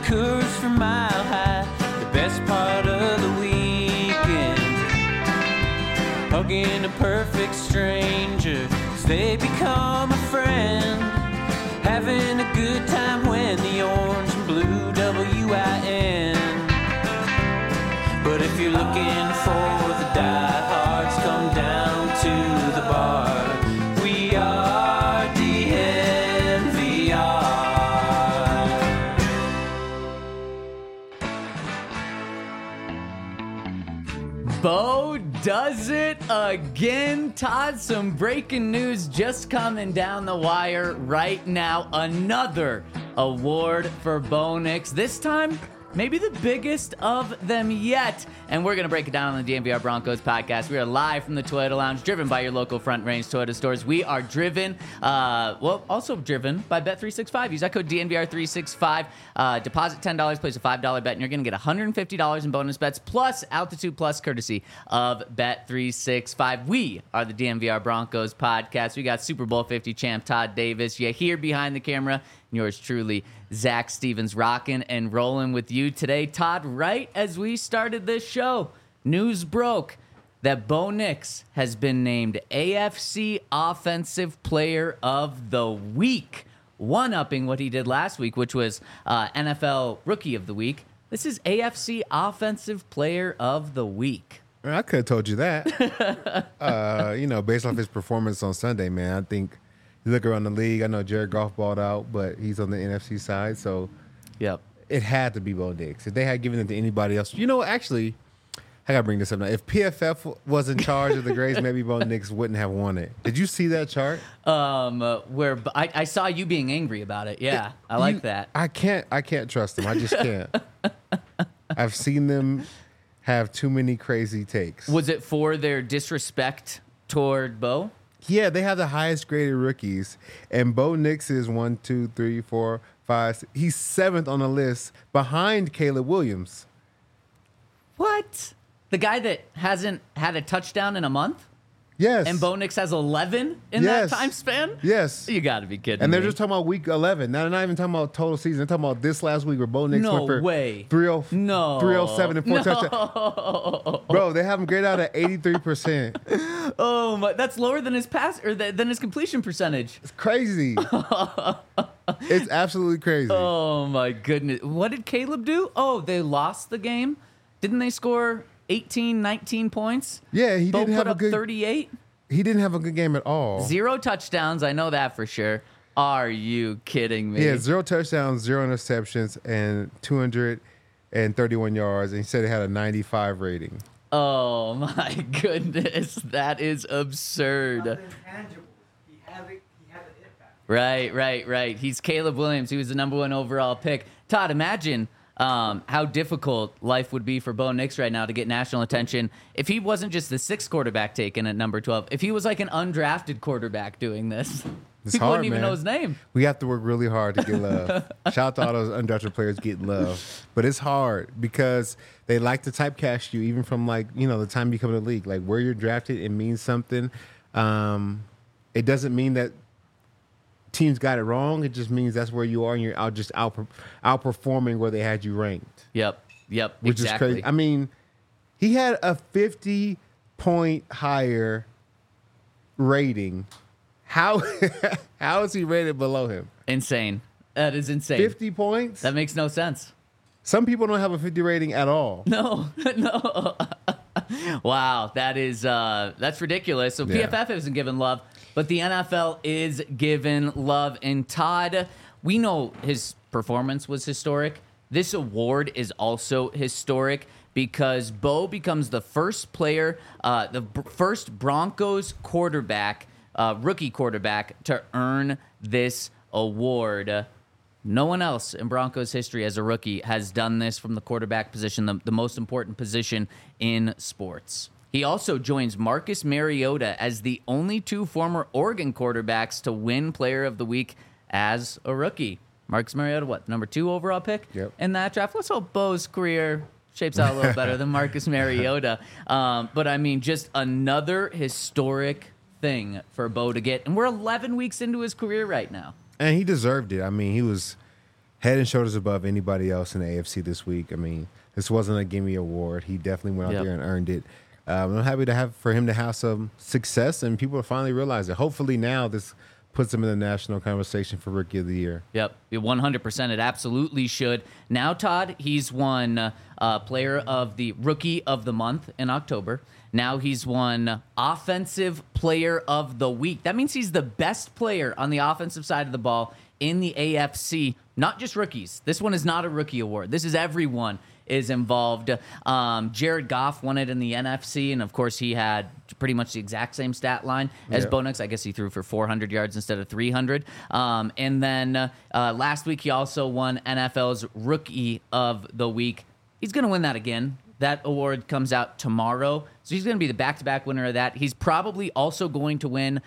Coors from Mile High, the best part of the weekend. Hugging a perfect stranger as they become a friend. Having a good time when the orange and blue WIN. But if you're looking for the diehards, come down to the bar. We are DNVR. Bo does it again. Todd, some breaking news just coming down the wire right now. Another award for Bo Nix. This time, maybe the biggest of them yet. And we're going to break it down on the DNVR Broncos podcast. We are live from the Toyota Lounge, driven by your local Front Range Toyota stores. We are driven, also driven by Bet365. Use that code DNVR365. Deposit $10, place a $5 bet, and you're going to get $150 in bonus bets, plus Altitude Plus, courtesy of Bet365. We are the DNVR Broncos podcast. We got Super Bowl 50 champ Todd Davis. You here behind the camera. Yours truly, Zach Stevens, rocking and rolling with you today. Todd, right as we started this show, news broke that Bo Nix has been named AFC Offensive Player of the Week, one-upping what he did last week, which was NFL Rookie of the Week. This is AFC Offensive Player of the Week. I could have told you that. Based off his performance on Sunday, man, I think you look around the league, I know Jared Goff balled out, but he's on the NFC side, so yep, it had to be Bo Nix. If they had given it to anybody else, actually, I got to bring this up now. If PFF was in charge of the grades, maybe Bo Nix wouldn't have won it. Did you see that chart? Where I saw you being angry about it. Yeah, I like that. I can't trust them. I just can't. I've seen them have too many crazy takes. Was it for their disrespect toward Bo? Yeah, they have the highest graded rookies, and Bo Nix is 1, 2, 3, 4, 5. He's 7th on the list, behind Caleb Williams. What? The guy that hasn't had a touchdown in a month? Yes. And Bo Nix has 11 in that time span? Yes. You got to be kidding And they're me. just talking about week 11. Now, they're not even talking about total season. They're talking about this last week where Bo Nix went for 307 and 4 touchdowns. Bro, they have him graded out at 83%. Oh, my, that's lower than his pass or than his completion percentage. It's crazy. It's absolutely crazy. Oh, my goodness. What did Caleb do? Oh, they lost the game? Didn't they score 18, 19 points? Yeah, he didn't have a good 38. He didn't have a good game at all. 0 touchdowns, I know that for sure. Are you kidding me? Yeah, 0 touchdowns, 0 interceptions, and 231 yards. And he said he had a 95 rating. Oh my goodness, that is absurd. Intangible. He had an impact. Right. He's Caleb Williams. He was the number 1 overall pick. Todd, imagine how difficult life would be for Bo Nix right now to get national attention if he wasn't just the 6th quarterback taken at number 12. If he was like an undrafted quarterback doing this, people wouldn't even know his name. We have to work really hard to get love. Shout out to all those undrafted players getting love. But it's hard because they like to typecast you even from the time you come to the league. Like where you're drafted, it means something. It doesn't mean that teams got it wrong. It just means that's where you are and you're outperforming where they had you ranked. Yep, which is crazy. I mean, he had a 50-point higher rating. How is he rated below him? Insane. That is insane. 50 points? That makes no sense. Some people don't have a 50 rating at all. No. Wow, that's ridiculous. So PFF isn't giving love, but the NFL is giving love. And Todd, we know his performance was historic. This award is also historic because Bo becomes the first player, the first Broncos quarterback, rookie quarterback, to earn this award. No one else in Broncos history as a rookie has done this from the quarterback position, the most important position in sports. He also joins Marcus Mariota as the only 2 former Oregon quarterbacks to win Player of the Week as a rookie. Marcus Mariota, number 2 overall pick in that draft? Let's hope Bo's career shapes out a little better than Marcus Mariota. But, I mean, just another historic thing for Bo to get. And we're 11 weeks into his career right now. And he deserved it. I mean, he was head and shoulders above anybody else in the AFC this week. I mean, this wasn't a gimme award. He definitely went out there and earned it. I'm happy for him to have some success, and people finally realize it. Hopefully now this puts him in the national conversation for Rookie of the Year. Yep, 100%. It absolutely should. Now, Todd, he's won Player of the Rookie of the Month in October. Now he's won Offensive Player of the Week. That means he's the best player on the offensive side of the ball in the AFC, not just rookies. This one is not a rookie award. This is everyone is involved. Jared Goff won it in the NFC, and of course he had pretty much the exact same stat line as Bo Nix. I guess he threw for 400 yards instead of 300. And then last week he also won NFL's Rookie of the Week. He's going to win that again. That award comes out tomorrow, so he's going to be the back-to-back winner of that. He's probably also going to win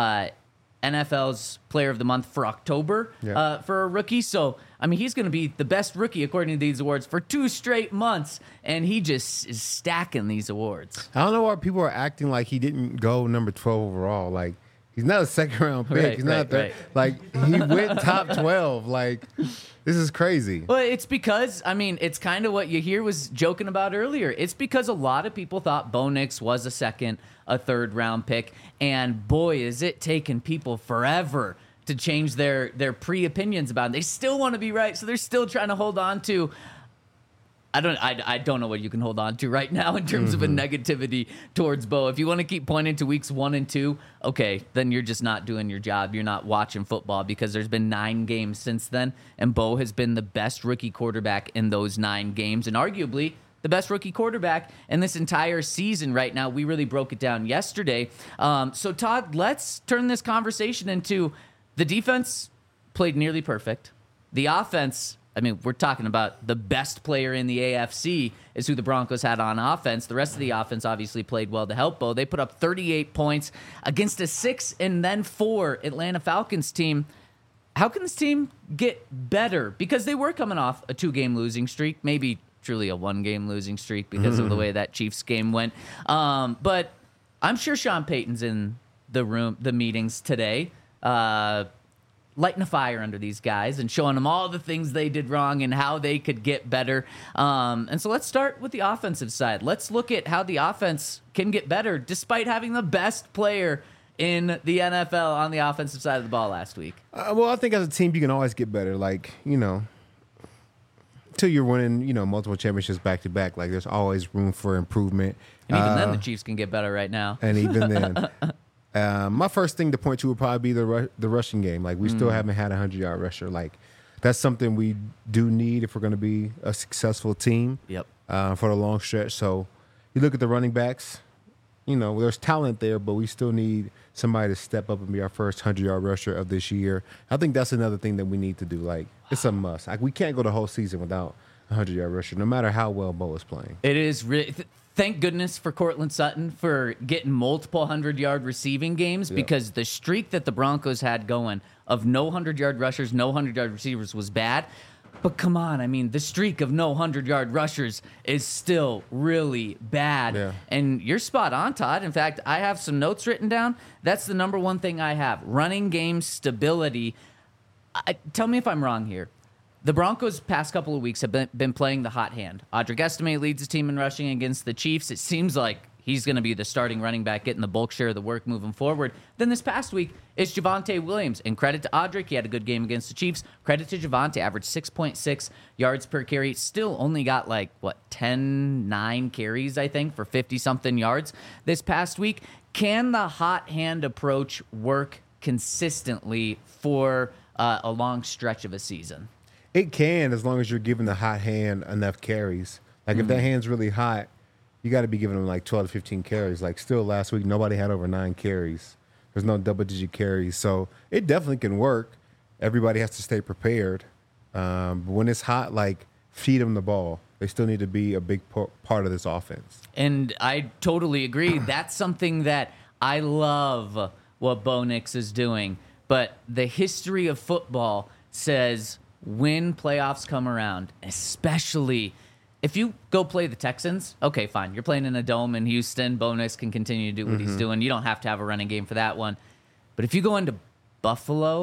NFL's Player of the Month for October for a rookie. So, I mean, he's going to be the best rookie according to these awards for 2 straight months, and he just is stacking these awards. I don't know why people are acting like he didn't go number 12 overall. Like, he's not a second-round pick. He's not there. Like, he went top 12. Like, this is crazy. Well, it's because, I mean, it's kind of what Yahir was joking about earlier. It's because a lot of people thought Bo Nix was a third-round pick, and boy, is it taking people forever to change their pre-opinions about him. They still want to be right, so they're still trying to hold on to. I don't know what you can hold on to right now in terms of a negativity towards Bo. If you want to keep pointing to weeks 1 and 2, okay, then you're just not doing your job. You're not watching football, because there's been 9 games since then, and Bo has been the best rookie quarterback in those 9 games, and arguably the best rookie quarterback in this entire season right now. We really broke it down yesterday. So, Todd, let's turn this conversation into the defense played nearly perfect. The offense, I mean, we're talking about the best player in the AFC is who the Broncos had on offense. The rest of the offense obviously played well to help Bo. They put up 38 points against a 6 and then 4 Atlanta Falcons team. How can this team get better? Because they were coming off a 2-game losing streak, maybe truly a 1-game losing streak because of the way that Chiefs game went. But I'm sure Sean Payton's in the meetings today, lighting a fire under these guys and showing them all the things they did wrong and how they could get better. And so let's start with the offensive side. Let's look at how the offense can get better despite having the best player in the NFL on the offensive side of the ball last week. Well, I think as a team, you can always get better. Like, until you're winning, multiple championships back-to-back, like there's always room for improvement. And even then, the Chiefs can get better right now. And even then. My first thing to point to would probably be the rushing game. Like, we still haven't had a 100-yard rusher. Like, that's something we do need if we're going to be a successful team for the long stretch. So you look at the running backs, there's talent there, but we still need somebody to step up and be our first 100-yard rusher of this year. I think that's another thing that we need to do. Like, it's a must. Like, we can't go the whole season without a 100-yard rusher, no matter how well Bo is playing. It is really... Thank goodness for Cortland Sutton for getting multiple 100-yard receiving games because the streak that the Broncos had going of no 100-yard rushers, no 100-yard receivers was bad. But come on, I mean, the streak of no 100-yard rushers is still really bad. Yeah. And you're spot on, Todd. In fact, I have some notes written down. That's the number one thing I have. Running game stability. Tell me if I'm wrong here. The Broncos past couple of weeks have been playing the hot hand. Audric Estime leads his team in rushing against the Chiefs. It seems like he's going to be the starting running back, getting the bulk share of the work moving forward. Then this past week, it's Javonte Williams. And credit to Audric, he had a good game against the Chiefs. Credit to Javonte, averaged 6.6 yards per carry. Still only got 9 carries, I think, for 50-something yards this past week. Can the hot hand approach work consistently for a long stretch of a season? It can, as long as you're giving the hot hand enough carries. Like, if that hand's really hot, you got to be giving them 12 to 15 carries. Like, still last week, nobody had over 9 carries. There's no double-digit carries. So it definitely can work. Everybody has to stay prepared. But when it's hot, feed them the ball. They still need to be a big part of this offense. And I totally agree. That's something that I love what Bo Nix is doing. But the history of football says when playoffs come around, especially if you go play the Texans, okay, fine. You're playing in a dome in Houston. Bo Nix can continue to do what he's doing. You don't have to have a running game for that one. But if you go into Buffalo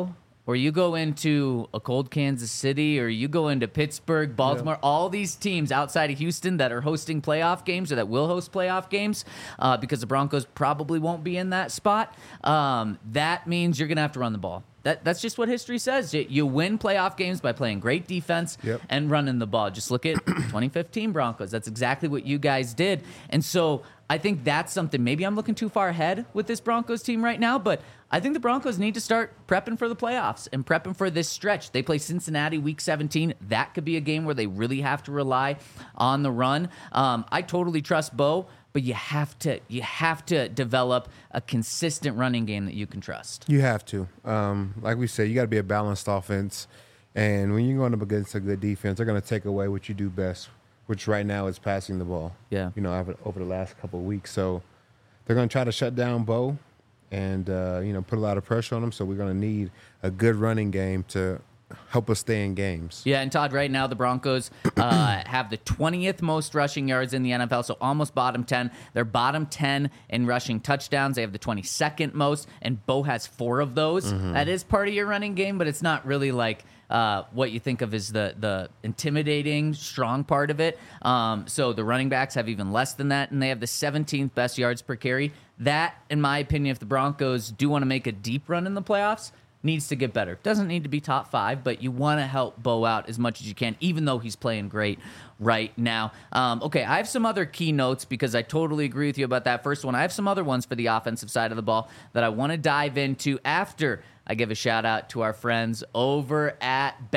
or you go into a cold Kansas City, or you go into Pittsburgh, Baltimore, all these teams outside of Houston that are hosting playoff games or that will host playoff games because the Broncos probably won't be in that spot, that means you're going to have to run the ball. That's just what history says. You win playoff games by playing great defense and running the ball. Just look at 2015 Broncos. That's exactly what you guys did. And so I think that's something. Maybe I'm looking too far ahead with this Broncos team right now, but I think the Broncos need to start prepping for the playoffs and prepping for this stretch. They play Cincinnati week 17. That could be a game where they really have to rely on the run. I totally trust Bo, but you have to develop a consistent running game that you can trust. You have to. Like we said, you got to be a balanced offense. And when you're going up against a good defense, they're going to take away what you do best, which right now is passing the ball. Yeah. Over the last couple of weeks. So they're going to try to shut down Bo and, put a lot of pressure on him. So we're going to need a good running game to help us stay in games. Yeah, and Todd, right now the Broncos have the 20th most rushing yards in the NFL, so almost bottom 10. They're bottom 10 in rushing touchdowns. They have the 22nd most, and Bo has 4 of those. That is part of your running game, but it's not really like what you think of as the intimidating, strong part of it. So the running backs have even less than that, and they have the 17th best yards per carry. That, in my opinion, if the Broncos do want to make a deep run in the playoffs, needs to get better. Doesn't need to be top 5, but you want to help Bo out as much as you can, even though he's playing great right now. Okay, I have some other key notes because I totally agree with you about that first one. I have some other ones for the offensive side of the ball that I want to dive into after I give a shout out to our friends over at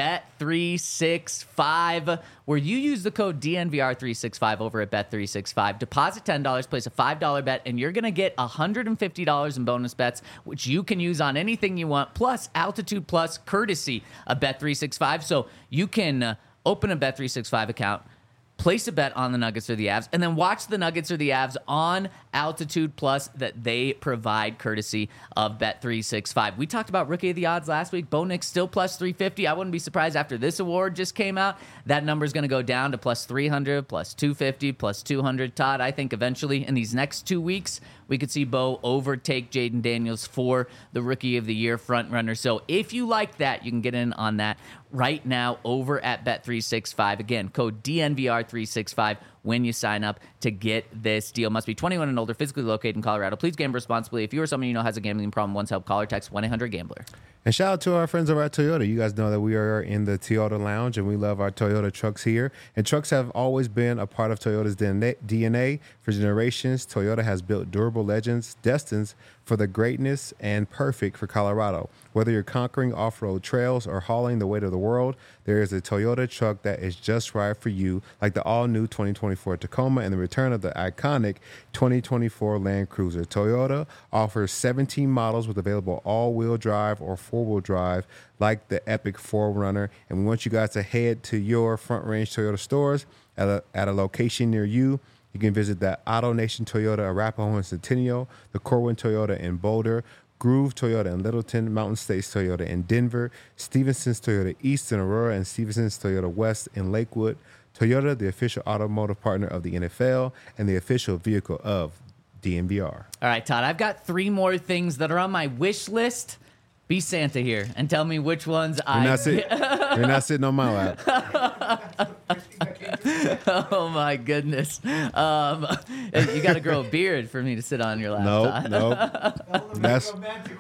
Bet365, where you use the code DNVR365 over at Bet365. Deposit $10, place a $5 bet, and you're going to get $150 in bonus bets, which you can use on anything you want, plus Altitude Plus courtesy of Bet365. So you can open a Bet365 account, place a bet on the Nuggets or the Avs, and then watch the Nuggets or the Avs on Altitude Plus that they provide courtesy of Bet365. We talked about Rookie of the Odds last week. Bo Nix still plus 350. I wouldn't be surprised after this award just came out. That number is going to go down to plus 300, plus 250, plus 200. Todd, I think eventually in these next 2 weeks, we could see Bo overtake Jaden Daniels for the Rookie of the Year front runner. So if you like that, you can get in on that right now over at Bet365. Again, code DNVR365 when you sign up to get this deal. Must be 21 and older, physically located in Colorado. Please gamble responsibly. If you or someone you know has a gambling problem, once help, call or text 1-800-GAMBLER. And shout out to our friends over at Toyota. You guys know that we are in the Toyota Lounge, and we love our Toyota trucks here. And trucks have always been a part of Toyota's DNA for generations. Toyota has built durable legends destined for the greatness and perfect for Colorado. Whether you're conquering off-road trails or hauling the weight of the world, there is a Toyota truck that is just right for you, like the all-new 2024 Tacoma and the return of the iconic 2024 Land Cruiser. Toyota offers 17 models with available all-wheel drive or four-wheel drive, like the epic 4Runner. And we want you guys to head to your Front Range Toyota stores at a location near you. You can visit the Auto Nation Toyota Arapahoe and Centennial, the Corwin Toyota in Boulder, Groove Toyota in Littleton, Mountain States Toyota in Denver, Stevenson's Toyota East in Aurora, and Stevenson's Toyota West in Lakewood. Toyota, the official automotive partner of the NFL and the official vehicle of DNVR. All right, Todd, I've got 3 more things that are on my wish list. Be Santa here and tell me which ones You're not sitting on my lap. Oh my goodness! You got to grow a beard for me to sit on your lap. Nope. That's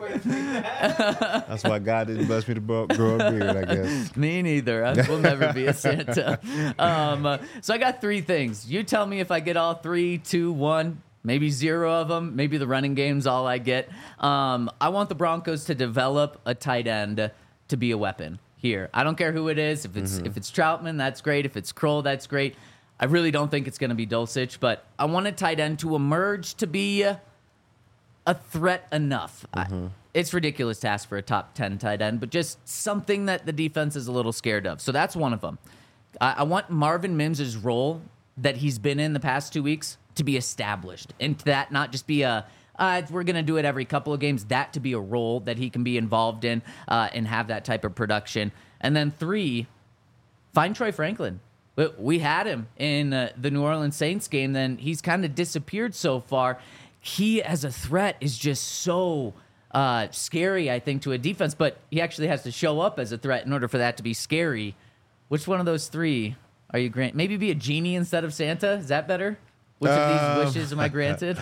why God didn't bless me to grow a beard, I guess. Me neither. I will never be a Santa. So I got 3 things. You tell me if I get all 3, 2, 1. Maybe 0 of them. Maybe the running game's all I get. I want the Broncos to develop a tight end to be a weapon here. I don't care who it is. If it's Troutman, that's great. If it's Kroll, that's great. I really don't think it's going to be Dulcich, but I want a tight end to emerge to be a threat enough. It's ridiculous to ask for a top 10 tight end, but just something that the defense is a little scared of. So that's one of them. I want Marvin Mims' role that he's been in the past 2 weeks to be established, and to that not just be we're going to do it every couple of games, that to be a role that he can be involved in and have that type of production. And then 3, find Troy Franklin. We had him in the New Orleans Saints game, then he's kind of disappeared so far. He, as a threat, is just so scary, I think, to a defense, but he actually has to show up as a threat in order for that to be scary. Which one of those three are you granted? Maybe be a genie instead of Santa? Is that better? Which of these wishes am I granted?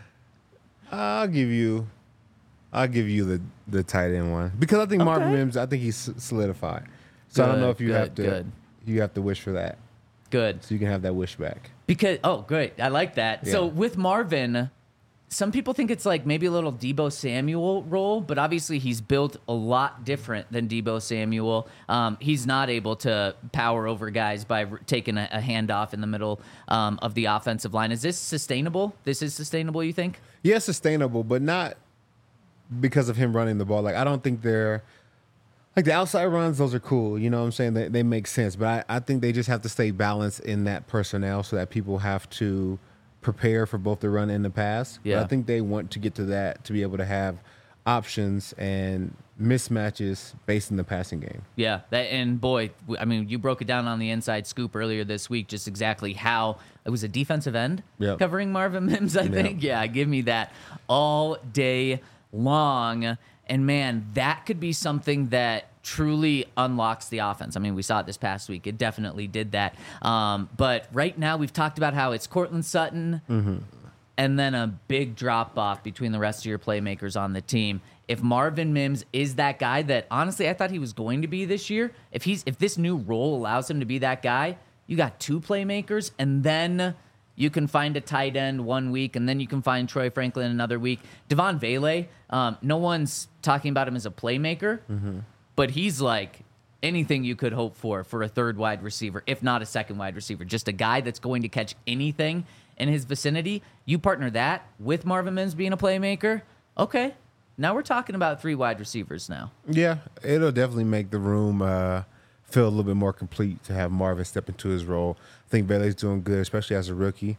I'll give you the tight end one because I think Marvin Mims. I think he's solidified. So I don't know if you have to wish for that. Good. So you can have that wish back. Because great, I like that. Yeah. So with Marvin, some people think it's like maybe a little Deebo Samuel role, but obviously he's built a lot different than Deebo Samuel. He's not able to power over guys by taking a handoff in the middle of the offensive line. Is this sustainable? This is sustainable, you think? Yeah, sustainable, but not because of him running the ball. Like I don't think they're like the outside runs. Those are cool. You know what I'm saying? They make sense, but I think they just have to stay balanced in that personnel so that people have to prepare for both the run and the pass. Yeah. But I think they want to get to that to be able to have options and mismatches based in the passing game. Yeah, and boy, I mean, you broke it down on the Inside Scoop earlier this week, just exactly how it was a defensive end covering Marvin Mims, I think. Yeah, give me that all day long. And man, that could be something that truly unlocks the offense. I mean, we saw it this past week. It definitely did that. But right now, we've talked about how it's Cortland Sutton and then a big drop-off between the rest of your playmakers on the team. If Marvin Mims is that guy that, honestly, I thought he was going to be this year, if this new role allows him to be that guy, you got two playmakers, and then you can find a tight end one week, and then you can find Troy Franklin another week. Devon Vele, no one's talking about him as a playmaker, but he's like anything you could hope for a third wide receiver, if not a second wide receiver. Just a guy that's going to catch anything in his vicinity. You partner that with Marvin Mims being a playmaker, okay, now we're talking about three wide receivers now. Yeah, it'll definitely make the room feel a little bit more complete to have Marvin step into his role. I think Vele's doing good, especially as a rookie.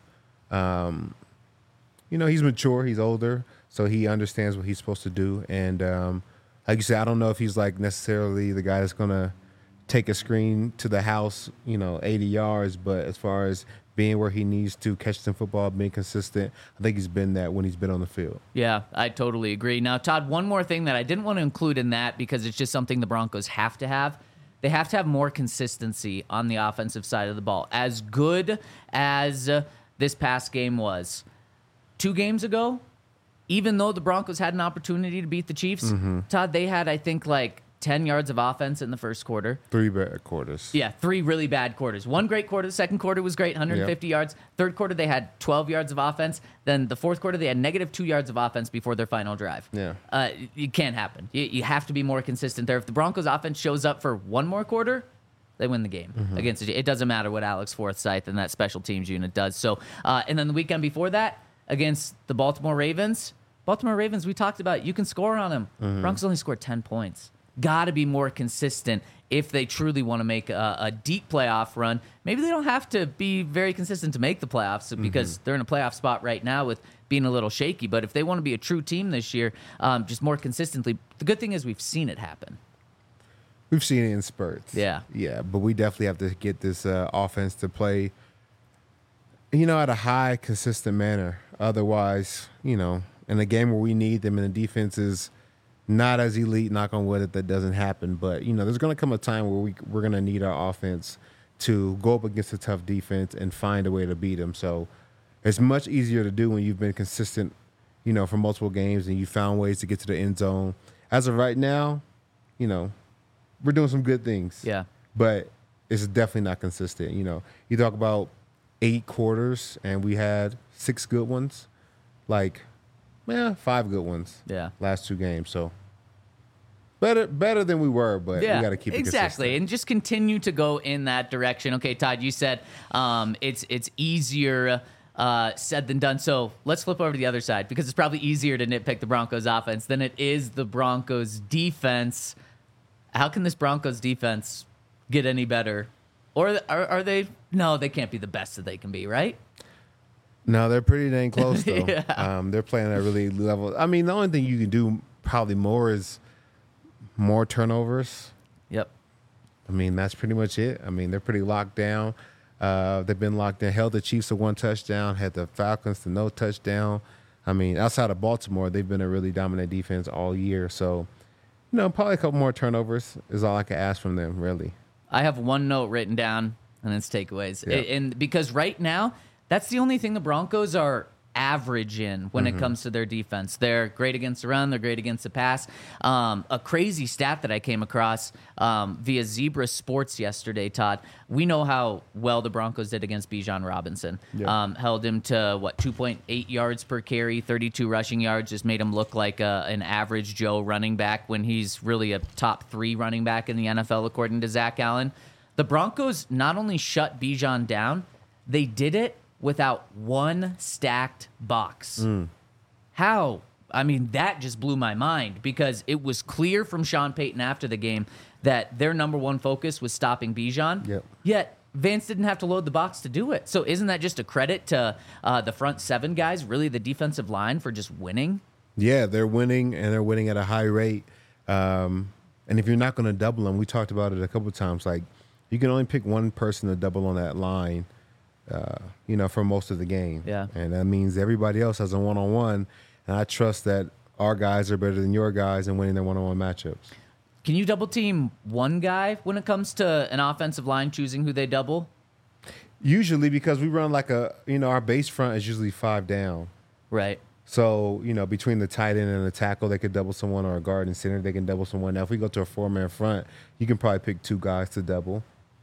He's mature, he's older, so he understands what he's supposed to do. And like you said, I don't know if he's like necessarily the guy that's going to take a screen to the house, 80 yards. But as far as being where he needs to, catch some football, being consistent, I think he's been that when he's been on the field. Yeah, I totally agree. Now, Todd, one more thing that I didn't want to include in that because it's just something the Broncos have to have. They have to have more consistency on the offensive side of the ball. As good as this past game was, 2 games ago, even though the Broncos had an opportunity to beat the Chiefs, Todd, they had, I think, like 10 yards of offense in the first quarter. 3 bad quarters. Yeah, 3 really bad quarters. 1 great quarter. The second quarter was great, 150 yards. Third quarter, they had 12 yards of offense. Then the fourth quarter, they had -2 yards of offense before their final drive. Yeah. It can't happen. You have to be more consistent there. If the Broncos offense shows up for 1 more quarter, they win the game against it. It doesn't matter what Alex Forsythe and that special teams unit does. So, and then the weekend before that, against the Baltimore Ravens, we talked about, you can score on them. Broncos only scored 10 points. Got to be more consistent if they truly want to make a deep playoff run. Maybe they don't have to be very consistent to make the playoffs because they're in a playoff spot right now with being a little shaky. But if they want to be a true team this year, just more consistently, the good thing is we've seen it happen. We've seen it in spurts. Yeah. Yeah, but we definitely have to get this offense to play, at a high, consistent manner. Otherwise, in a game where we need them and the defense is not as elite, knock on wood, that doesn't happen. But, there's going to come a time where we're going to need our offense to go up against a tough defense and find a way to beat them. So it's much easier to do when you've been consistent, for multiple games and you found ways to get to the end zone. As of right now, we're doing some good things. Yeah. But it's definitely not consistent. You talk about 8 quarters and we had 6 good ones. 5 good ones. Yeah. Last 2 games. So better than we were, but we got to keep it exactly, consistent. And just continue to go in that direction. Okay, Todd, you said it's easier said than done. So let's flip over to the other side because it's probably easier to nitpick the Broncos offense than it is the Broncos defense. How can this Broncos defense get any better? Or are they? No, they can't be the best that they can be, right? No, they're pretty dang close, though. Yeah. They're playing at a really level. I mean, the only thing you can do probably more is more turnovers. Yep. I mean, that's pretty much it. I mean, they're pretty locked down. They've been locked in. Held the Chiefs to 1 touchdown. Had the Falcons to no touchdown. I mean, outside of Baltimore, they've been a really dominant defense all year. So, probably a couple more turnovers is all I could ask from them, really. I have one note written down, and it's takeaways. Yeah. And because right now, that's the only thing the Broncos are average in when it comes to their defense. They're great against the run. They're great against the pass. A crazy stat that I came across via Zebra Sports yesterday, Todd. We know how well the Broncos did against Bijan Robinson. Yeah. Held him to, 2.8 yards per carry, 32 rushing yards, just made him look like an average Joe running back when he's really a top 3 running back in the NFL, according to Zach Allen. The Broncos not only shut Bijan down, they did it without one stacked box. How? I mean, that just blew my mind because it was clear from Sean Payton after the game that their number one focus was stopping Bijan. Yep. Yet Vance didn't have to load the box to do it. So isn't that just a credit to the front 7 guys, really the defensive line, for just winning? Yeah, they're winning, and they're winning at a high rate. And if you're not going to double them, we talked about it a couple of times, like you can only pick one person to double on that line, for most of the game. Yeah. And that means everybody else has a one-on-one, and I trust that our guys are better than your guys in winning their one-on-one matchups. Can you double team one guy when it comes to an offensive line choosing who they double? Usually, because we run like our base front is usually 5 down. Right. So, between the tight end and the tackle, they could double someone, or a guard and center, they can double someone. Now, if we go to a 4-man front, you can probably pick 2 guys to double.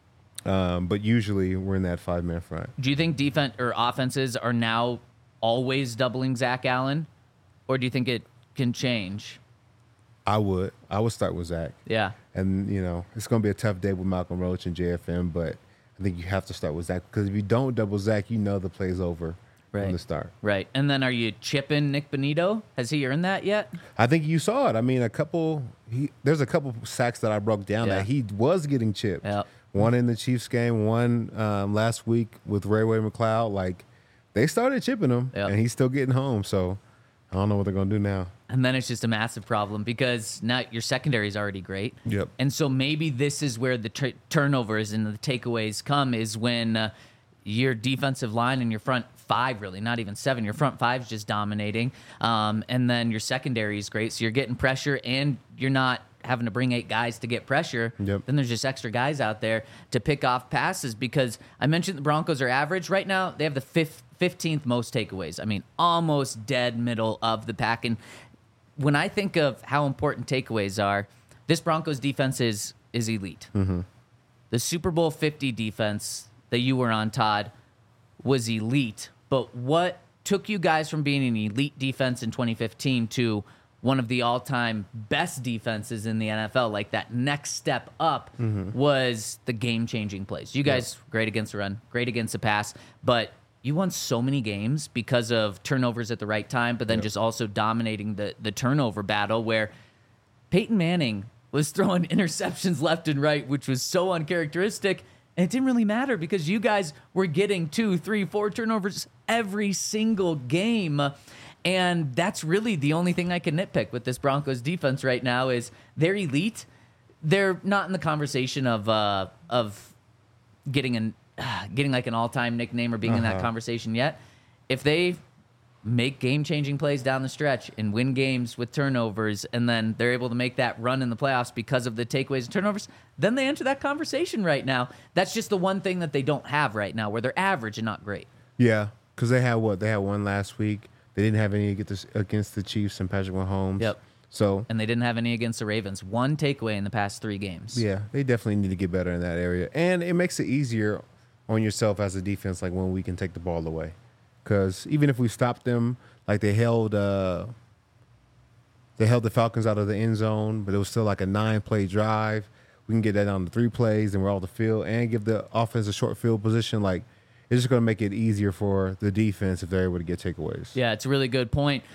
But usually we're in that 5-man front. Do you think defense or offenses are now always doubling Zach Allen, or do you think it can change? I would start with Zach. Yeah. And, it's going to be a tough day with Malcolm Roach and JFM, but I think you have to start with Zach, because if you don't double Zach, the play's over from the start. Right. And then are you chipping Nick Bonito? Has he earned that yet? I think you saw it. I mean, there's a couple sacks that I broke down Yeah. that he was getting chipped. Yep. One in the Chiefs game, one last week with Ray McLeod. Like, they started chipping him, Yep. and he's still getting home. So I don't know what they're going to do now. And then it's just a massive problem because now your secondary is already great. Yep. And so maybe this is where the turnovers and the takeaways come, is when your defensive line and your front 5, really, not even 7, your front 5 is just dominating. And then your secondary is great. So you're getting pressure and you're not having to bring 8 guys to get pressure. Yep. Then there's just extra guys out there to pick off passes, because I mentioned the Broncos are average. Right now, they have the 15th most takeaways. I mean, almost dead middle of the pack. And when I think of how important takeaways are, this Broncos defense is elite. Mm-hmm. The Super Bowl 50 defense that you were on, Todd, was elite. But what took you guys from being an elite defense in 2015 to one of the all-time best defenses in the NFL, like that next step up, was the game-changing plays. You guys, great against the run, great against the pass, but you won so many games because of turnovers at the right time, but then just also dominating the turnover battle, where Peyton Manning was throwing interceptions left and right, which was so uncharacteristic, and it didn't really matter because you guys were getting 2, 3, 4 turnovers every single game. And that's really the only thing I can nitpick with this Broncos defense right now is they're elite. They're not in the conversation of getting like an all-time nickname or being in that conversation yet. If they make game-changing plays down the stretch and win games with turnovers, and then they're able to make that run in the playoffs because of the takeaways and turnovers, then they enter that conversation right now. That's just the one thing that they don't have right now, where they're average and not great. Yeah, because they had one last week. They didn't have any against the Chiefs and Patrick Mahomes. Yep. So, and they didn't have any against the Ravens. One takeaway in the past 3 games. Yeah, they definitely need to get better in that area. And it makes it easier on yourself as a defense, like when we can take the ball away. Because even if we stopped them, like they held the Falcons out of the end zone, but it was still like a 9-play drive. We can get that on the 3 plays, and we're off the field, and give the offense a short field position. Like, it's just going to make it easier for the defense if they're able to get takeaways. Yeah, it's a really good point.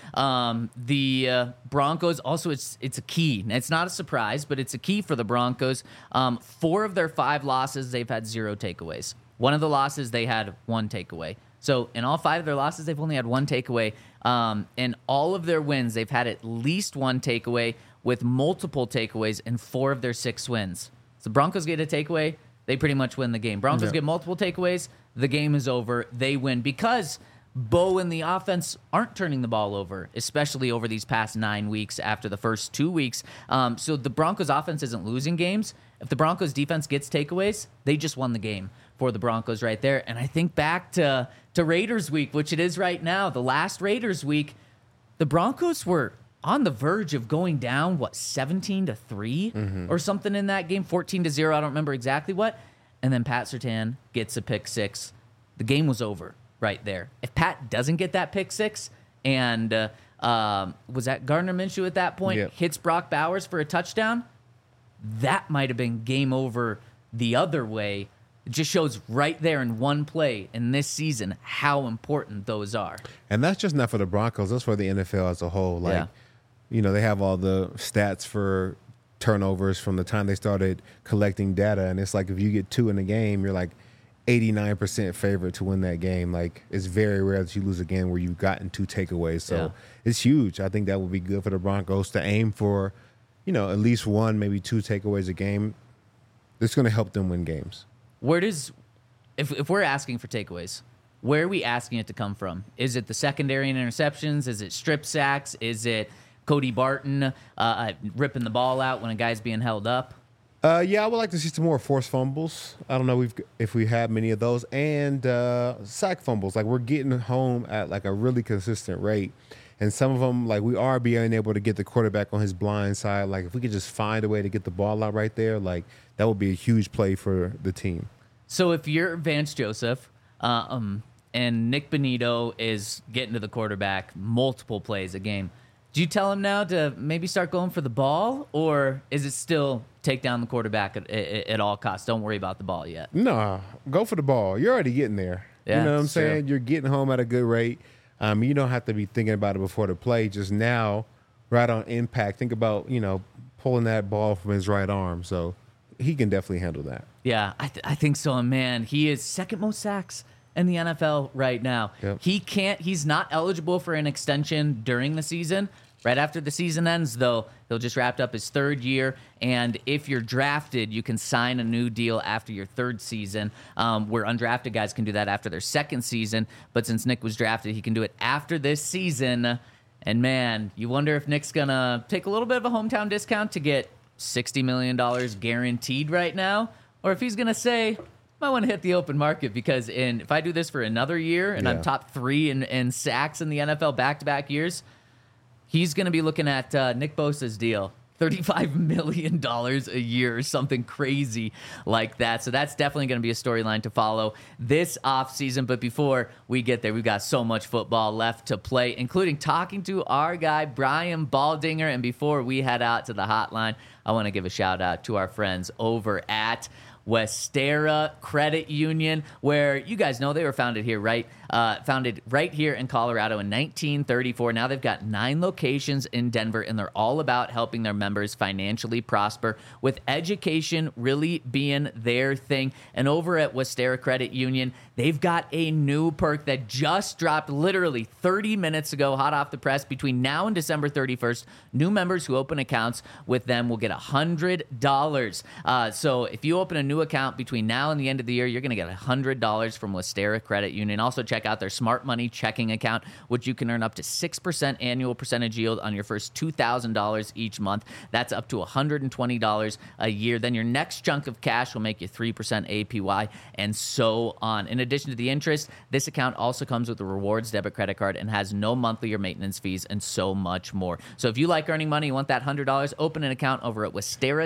The Broncos, also, it's a key. It's not a surprise, but it's a key for the Broncos. 4 of their 5 losses, they've had 0 takeaways. One of the losses, they had 1 takeaway. So in all 5 of their losses, they've only had 1 takeaway. In all of their wins, they've had at least 1 takeaway, with multiple takeaways in 4 of their 6 wins. So Broncos get a takeaway, they pretty much win the game. Broncos get multiple takeaways, the game is over, they win. Because Bo and the offense aren't turning the ball over, especially over these past 9 weeks after the first 2 weeks. So the Broncos offense isn't losing games. If the Broncos defense gets takeaways, they just won the game for the Broncos right there. And I think back to Raiders week, which it is right now, the last Raiders week, the Broncos were on the verge of going down, 17-3 or something in that game, 14-0. I don't remember exactly what. And then Pat Surtain gets a pick six. The game was over right there. If Pat doesn't get that pick six, and was that Gardner Minshew at that point, Yep. hits Brock Bowers for a touchdown, that might have been game over the other way. It just shows right there in one play in this season how important those are. And that's just not for the Broncos. That's for the NFL as a whole. Like, Yeah. they have all the stats for turnovers from the time they started collecting data. And it's like if you get 2 in a game, you're like 89% favorite to win that game. Like, it's very rare that you lose a game where you've gotten 2 takeaways. So Yeah. it's huge. I think that would be good for the Broncos to aim for, at least 1, maybe 2 takeaways a game. It's going to help them win games. Where does, if we're asking for takeaways, where are we asking it to come from? Is it the secondary and interceptions? Is it strip sacks? Is it Cody Barton ripping the ball out when a guy's being held up? Yeah, I would like to see some more forced fumbles. I don't know if we have many of those, and sack fumbles. Like, we're getting home at like a really consistent rate, and some of them, like, we are being able to get the quarterback on his blind side. Like, if we could just find a way to get the ball out right there, like, that would be a huge play for the team. So if you're Vance Joseph and Nick Bonito is getting to the quarterback multiple plays a game, do you tell him now to maybe start going for the ball, or is it still take down the quarterback at all costs? Don't worry about the ball yet. No, go for the ball. You're already getting there. Yeah, you know what I'm it's true. saying? You're getting home at a good rate. You don't have to be thinking about it before the play. Just now, right on impact, think about, pulling that ball from his right arm. So he can definitely handle that. Yeah, I think so. And man, he is second most sacks in the NFL right now. Yep. He's not eligible for an extension during the season. Right after the season ends, though, he'll just wrapped up his 3rd year. And if you're drafted, you can sign a new deal after your 3rd season, where undrafted guys can do that after their 2nd season. But since Nick was drafted, he can do it after this season. And man, you wonder if Nick's going to take a little bit of a hometown discount to get $60 million guaranteed right now, or if he's going to say, I want to hit the open market, because if I do this for another year and I'm Yeah. top 3 in sacks in the NFL back-to-back years, he's going to be looking at Nick Bosa's deal, $35 million a year or something crazy like that. So that's definitely going to be a storyline to follow this offseason. But before we get there, we've got so much football left to play, including talking to our guy, Brian Baldinger. And before we head out to the hotline, I want to give a shout out to our friends over at Westera Credit Union, where you guys know they were founded right here in Colorado in 1934. Now they've got 9 locations in Denver, and they're all about helping their members financially prosper, with education really being their thing. And over at Westera Credit Union, they've got a new perk that just dropped literally 30 minutes ago, hot off the press. Between now and December 31st, new members who open accounts with them will get $100. So if you open a new account between now and the end of the year, you're going to get $100 from Westera Credit Union. Also, check out their Smart Money checking account, which you can earn up to 6% annual percentage yield on your first $2,000 each month. That's up to $120 a year. Then your next chunk of cash will make you 3% APY, and so on. In addition to the interest, this account also comes with a rewards debit credit card and has no monthly or maintenance fees, and so much more. So if you like earning money, you want that $100, open an account over at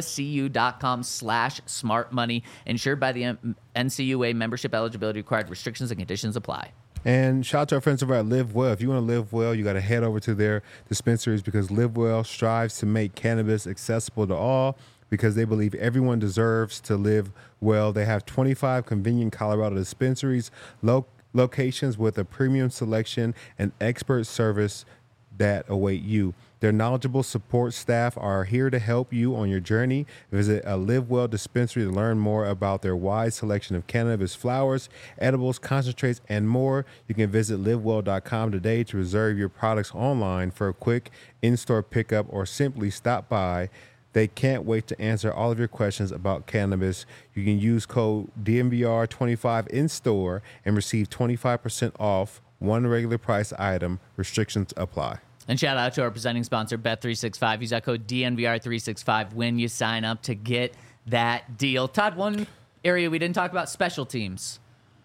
westeracu.com/smartmoney. Insured by the NCUA. Membership eligibility required. Restrictions and conditions apply. And shout out to our friends over at Live Well. If you want to live well, you got to head over to their dispensaries, because Live Well strives to make cannabis accessible to all, because they believe everyone deserves to live well. They have 25 convenient Colorado dispensaries, locations with a premium selection and expert service that await you. Their knowledgeable support staff are here to help you on your journey. Visit a Live Well dispensary to learn more about their wide selection of cannabis flowers, edibles, concentrates, and more. You can visit livewell.com today to reserve your products online for a quick in-store pickup, or simply stop by. They can't wait to answer all of your questions about cannabis. You can use code DMVR25 in store and receive 25% off one regular price item. Restrictions apply. And shout out to our presenting sponsor, Bet365. Use that code DNVR365 when you sign up to get that deal. Todd, one area we didn't talk about, special teams.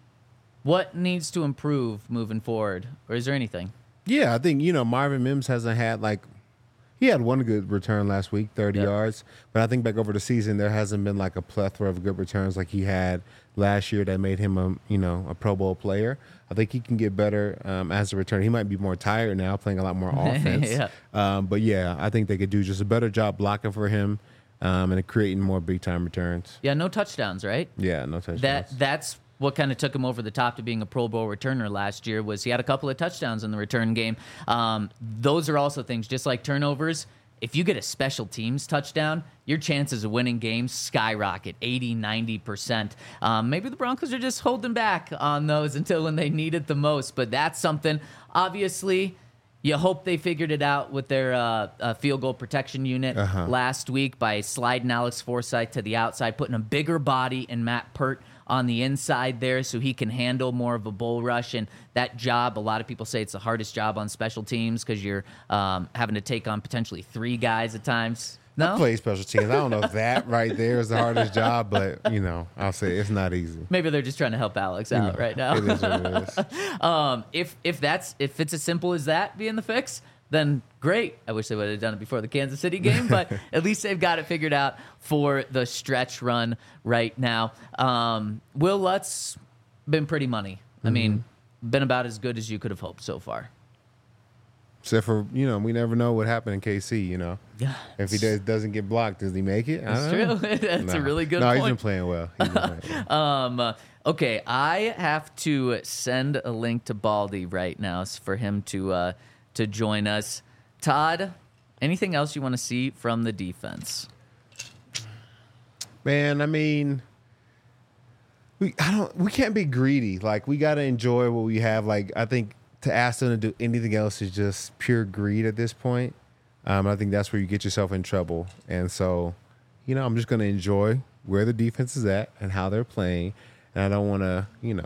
What needs to improve moving forward? Or is there anything? Yeah, I think, Marvin Mims hasn't had he had one good return last week, 30 yards. But I think back over the season, there hasn't been a plethora of good returns like he had last year that made him a Pro Bowl player. I think he can get better as a returner. He might be more tired now, playing a lot more offense. But yeah, I think they could do just a better job blocking for him and creating more big time returns. Yeah, no touchdowns, right? Yeah, no touchdowns. That's what kind of took him over the top to being a Pro Bowl returner last year was he had a couple of touchdowns in the return game. Those are also things, just like turnovers. If you get a special teams touchdown, your chances of winning games skyrocket 80, 90%. Maybe the Broncos are just holding back on those until when they need it the most, but that's something. Obviously, you hope they figured it out with their field goal protection unit last week by sliding Alex Forsythe to the outside, putting a bigger body in Matt Pert on the inside there so he can handle more of a bull rush. And that job, a lot of people say it's the hardest job on special teams because you're having to take on potentially 3 guys at times. No? I play special teams. I don't know if that right there is the hardest job, but, I'll say it's not easy. Maybe they're just trying to help Alex out right now. It is what it is. If it's as simple as that being the fix, then great. I wish they would have done it before the Kansas City game, but at least they've got it figured out for the stretch run right now. Will Lutz been pretty money. I mean, been about as good as you could have hoped so far. Except for, we never know what happened in KC, Yeah. If he doesn't get blocked, does he make it? That's true. That's a really good point. point. He's been playing well. Okay, I have to send a link to Baldy right now for him to join us. Todd, anything else you want to see from the defense? Man, I mean, we can't be greedy. We got to enjoy what we have. I think to ask them to do anything else is just pure greed at this point. I think that's where you get yourself in trouble. And so, I'm just going to enjoy where the defense is at and how they're playing. And I don't want to,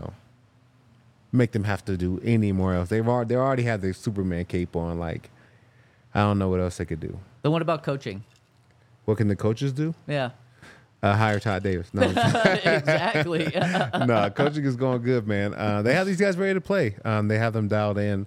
make them have to do any more else. They already have their Superman cape on. I don't know what else they could do. Then what about coaching? What can the coaches do? Yeah. Hire Todd Davis. No, Exactly. no, coaching is going good, man. They have these guys ready to play. They have them dialed in.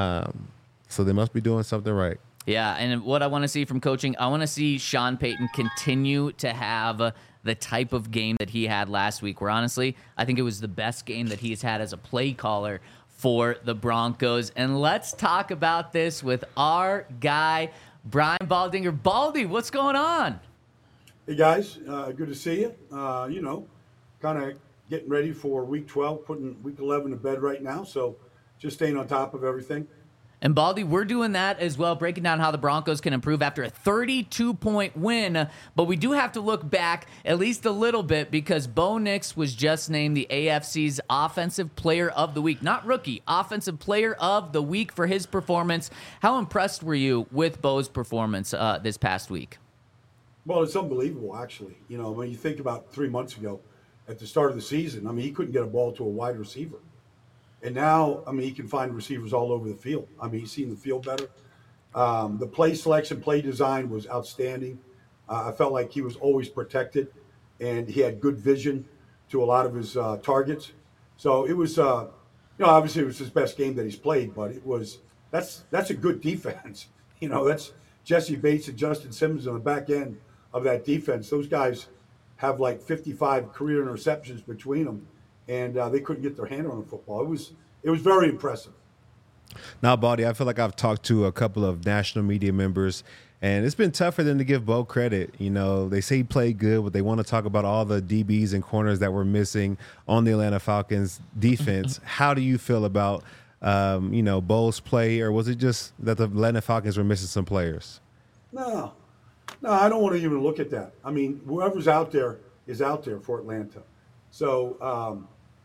So they must be doing something right. Yeah, and what I want to see from coaching, I want to see Sean Payton continue to have the type of game that he had last week, where honestly, I think it was the best game that he's had as a play caller for the Broncos. And let's talk about this with our guy, Brian Baldinger. Baldy, what's going on? Hey, guys. Good to see you. Kind of getting ready for Week 12, putting Week 11 to bed right now. So just staying on top of everything. And Baldy, we're doing that as well, breaking down how the Broncos can improve after a 32-point win. But we do have to look back at least a little bit because Bo Nix was just named the AFC's Offensive Player of the Week. Not rookie, Offensive Player of the Week for his performance. How impressed were you with Bo's performance this past week? Well, it's unbelievable, actually. When you think about 3 months ago at the start of the season, he couldn't get a ball to a wide receiver. And now, he can find receivers all over the field. He's seen the field better. The play selection, play design was outstanding. I felt like he was always protected, and he had good vision to a lot of his targets. So it was, obviously it was his best game that he's played, but that's a good defense. That's Jesse Bates and Justin Simmons on the back end of that defense. Those guys have 55 career interceptions between them. And they couldn't get their hand on the football. It was very impressive. Now, Baldy, I feel like I've talked to a couple of national media members, and it's been tough for them to give Bo credit. They say he played good, but they want to talk about all the DBs and corners that were missing on the Atlanta Falcons defense. How do you feel about, Bo's play, or was it just that the Atlanta Falcons were missing some players? No, I don't want to even look at that. Whoever's out there is out there for Atlanta. So,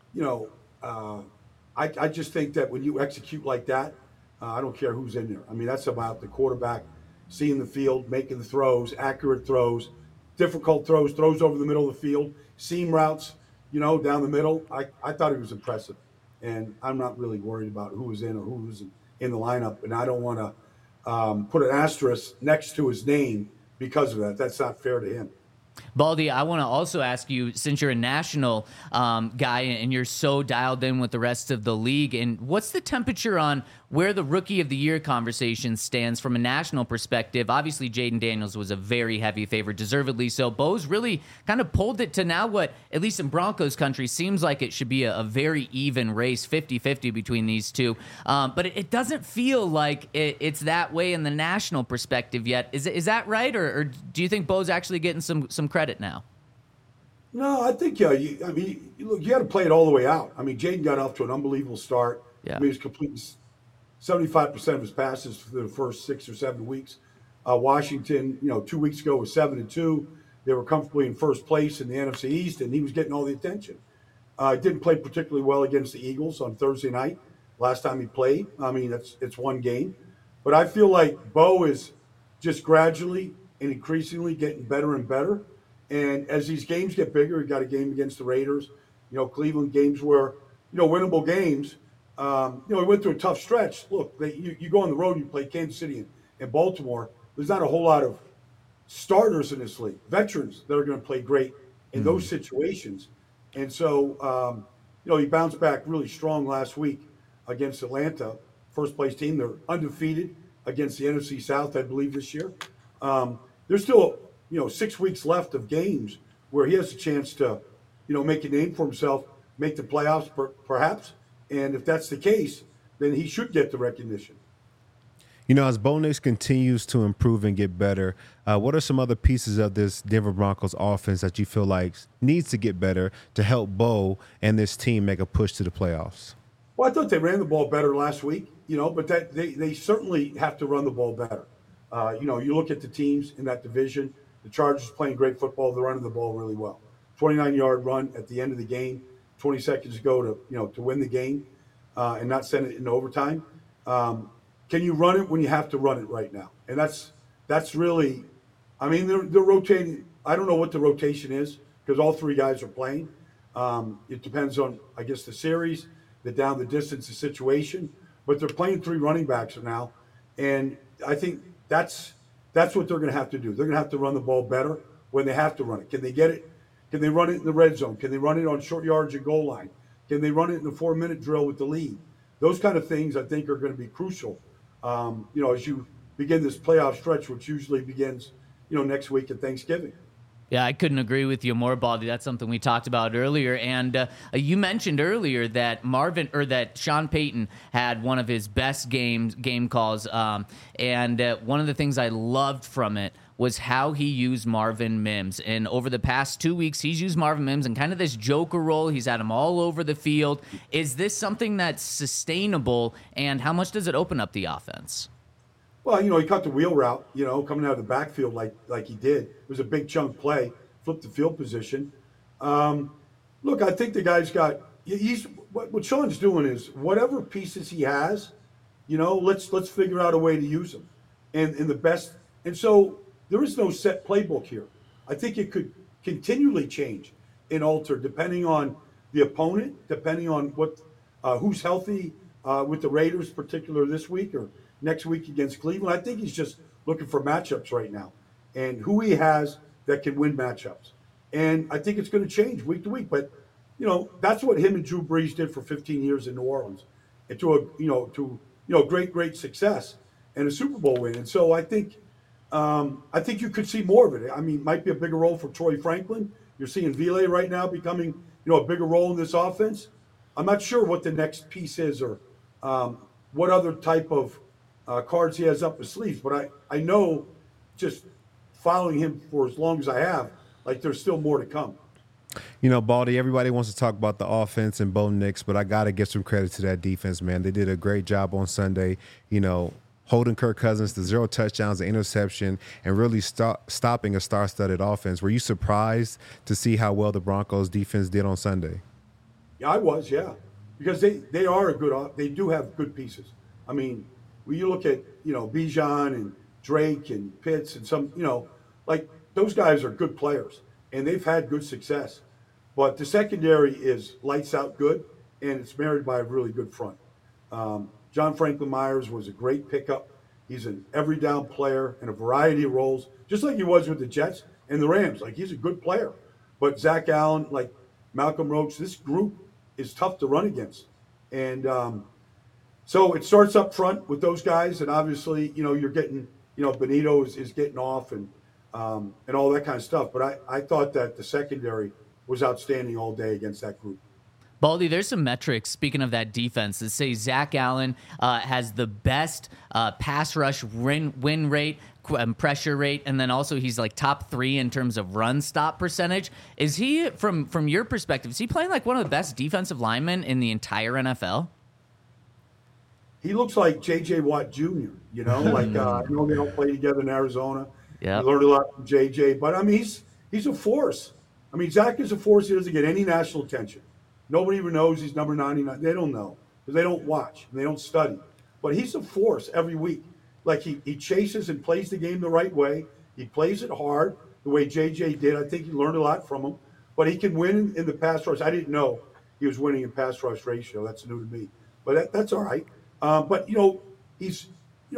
I just think that when you execute like that, I don't care who's in there. That's about the quarterback seeing the field, making the throws, accurate throws, difficult throws over the middle of the field, seam routes, down the middle. I thought it was impressive. and I'm not really worried about who was in or who was in the lineup, and I don't want to put an asterisk next to his name because of that. That's not fair to him. Baldy, I want to also ask you, since you're a national guy and you're so dialed in with the rest of the league, and what's the temperature on where the Rookie of the Year conversation stands from a national perspective? Obviously, Jaden Daniels was a very heavy favorite, deservedly so. Bo's really kind of pulled it to now what, at least in Broncos country, seems like it should be a very even race, 50-50 between these two. But it doesn't feel like it's that way in the national perspective yet. Is that right? Or do you think Bo's actually getting some credit now? No, I think look, you got to play it all the way out. I mean, Jaden got off to an unbelievable start. Yeah. I mean, he was completing 75% of his passes for the first 6 or 7 weeks. Washington, 2 weeks ago was 7-2. They were comfortably in first place in the NFC East, and he was getting all the attention. Didn't play particularly well against the Eagles on Thursday night. Last time he played, I mean, it's one game, but I feel like Bo is just gradually and increasingly getting better and better. And as these games get bigger, he got a game against the Raiders, Cleveland, games where, winnable games. He went through a tough stretch. Look, you go on the road, you play Kansas City and Baltimore. There's not a whole lot of starters in this league, veterans that are going to play great in those situations. And so, he bounced back really strong last week against Atlanta, first place team. They're undefeated against the NFC South, I believe, this year. There's still, 6 weeks left of games where he has a chance to, make a name for himself, make the playoffs perhaps. And if that's the case, then he should get the recognition. As Bo Nix continues to improve and get better, what are some other pieces of this Denver Broncos offense that you feel like needs to get better to help Bo and this team make a push to the playoffs? Well, I thought they ran the ball better last week, but that they certainly have to run the ball better. You look at the teams in that division, the Chargers playing great football, they're running the ball really well. 29-yard run at the end of the game, 20 seconds ago to win the game and not send it into overtime. Can you run it when you have to run it right now? And that's really, I mean, they're rotating. I don't know what the rotation is because all three guys are playing. It depends on, I guess, the series, the down the distance, the situation. But they're playing three running backs now, and I think that's what they're going to have to do. They're going to have to run the ball better when they have to run it. Can they get it? Can they run it in the red zone? Can they run it on short yards and goal line? Can they run it in the 4-minute drill with the lead? Those kind of things I think are going to be crucial. As you begin this playoff stretch, which usually begins, next week at Thanksgiving. Yeah, I couldn't agree with you more, Baldy. That's something we talked about earlier. And you mentioned earlier that Sean Payton had one of his best game calls. And one of the things I loved from it was how he used Marvin Mims. And over the past 2 weeks, he's used Marvin Mims in kind of this joker role. He's had him all over the field. Is this something that's sustainable, and how much does it open up the offense? Well, he cut the wheel route, coming out of the backfield like he did. It was a big chunk play, flipped the field position. Look, I think the guy's got what Sean's doing is whatever pieces he has, let's figure out a way to use them. And the best, and so there is no set playbook here. I think it could continually change and alter depending on the opponent, depending on who's healthy with the Raiders, particular this week or next week against Cleveland. I think he's just looking for matchups right now and who he has that can win matchups. And I think it's going to change week to week. But, that's what him and Drew Brees did for 15 years in New Orleans and to great success and a Super Bowl win. And so I think you could see more of it. I mean, it might be a bigger role for Troy Franklin. You're seeing Ville right now becoming, a bigger role in this offense. I'm not sure what the next piece is or what other type of cards he has up his sleeves, but I know just following him for as long as I have, like there's still more to come. Baldy, everybody wants to talk about the offense and Bo Nix, but I got to give some credit to that defense, man. They did a great job on Sunday, holding Kirk Cousins to 0 touchdowns, an interception, and really stopping a star-studded offense. Were you surprised to see how well the Broncos defense did on Sunday? Yeah, I was, because they are they do have good pieces. I mean, when you look at, Bijan and Drake and Pitts and some, like those guys are good players and they've had good success. But the secondary is lights out good. and it's married by a really good front. John Franklin Myers was a great pickup. He's an every down player in a variety of roles, just like he was with the Jets and the Rams. Like, he's a good player. But Zach Allen, like Malcolm Roach, this group is tough to run against. And so it starts up front with those guys. And obviously, you're getting, Benito is getting off and all that kind of stuff. But I thought that the secondary was outstanding all day against that group. Baldy, there's some metrics, speaking of that defense, that say Zach Allen has the best pass rush win rate, pressure rate, and then also he's like top 3 in terms of run stop percentage. Is he, from your perspective, is he playing like one of the best defensive linemen in the entire NFL? He looks like J.J. Watt Jr., like I know they don't play together in Arizona. Yeah, learned a lot from J.J., but I mean, he's a force. I mean, Zach is a force. He doesn't get any national attention. Nobody even knows he's number 99. They don't know because they don't watch and they don't study. But he's a force every week. Like, he chases and plays the game the right way. He plays it hard the way JJ did. I think he learned a lot from him. But he can win in the pass rush. I didn't know he was winning in pass rush ratio. That's new to me. But that's all right. But he's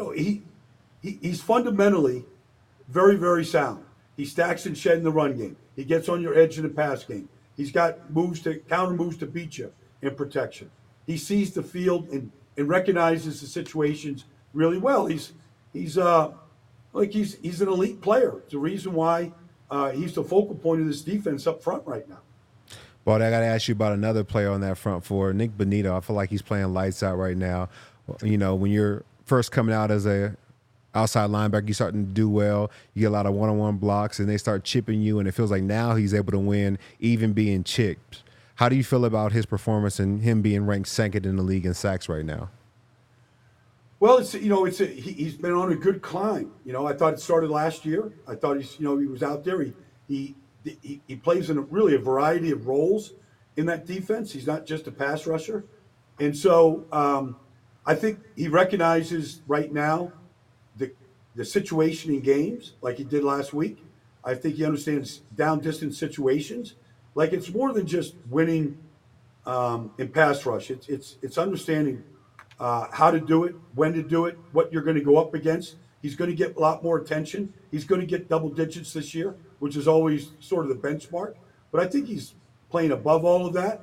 fundamentally very, very sound. He stacks and shed in the run game. He gets on your edge in the pass game. He's got counter moves to beat you in protection. He sees the field and recognizes the situations really well. He's an elite player. It's the reason why he's the focal point of this defense up front right now. But I got to ask you about another player on that front four, Nick Bonito. I feel like he's playing lights out right now. When you're first coming out as a outside linebacker, you're starting to do well. You get a lot of one-on-one blocks, and they start chipping you, and it feels like now he's able to win even being chipped. How do you feel about his performance and him being ranked second in the league in sacks right now? Well, he's been on a good climb. I thought it started last year. I thought he was out there. He plays in really a variety of roles in that defense. He's not just a pass rusher. And so I think he recognizes right now the situation in games like he did last week. I think he understands down distance situations. Like, it's more than just winning in pass rush. It's understanding how to do it, when to do it, what you're going to go up against. He's going to get a lot more attention. He's going to get double digits this year, which is always sort of the benchmark. But I think he's playing above all of that.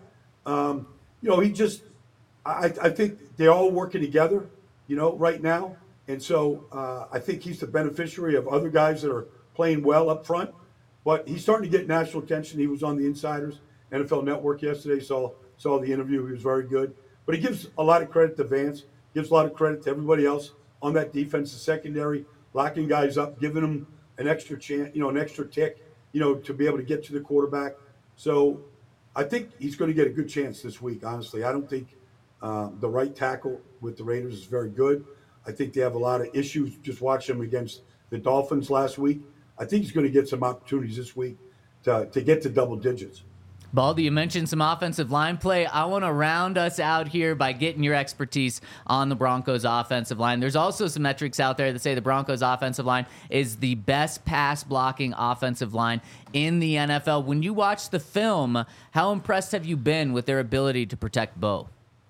I think they're all working together, right now. And so I think he's the beneficiary of other guys that are playing well up front. But he's starting to get national attention. He was on the Insiders NFL Network yesterday, saw the interview. He was very good. But he gives a lot of credit to Vance, gives a lot of credit to everybody else on that defensive secondary, locking guys up, giving them an extra chance, an extra tick, to be able to get to the quarterback. So I think he's going to get a good chance this week, honestly. I don't think the right tackle with the Raiders is very good. I think they have a lot of issues. Just watch him against the Dolphins last week. I think he's going to get some opportunities this week to get to double digits. Baldy, you mentioned some offensive line play. I want to round us out here by getting your expertise on the Broncos offensive line. There's also some metrics out there that say the Broncos offensive line is the best pass blocking offensive line in the NFL. When you watch the film, how impressed have you been with their ability to protect Bo?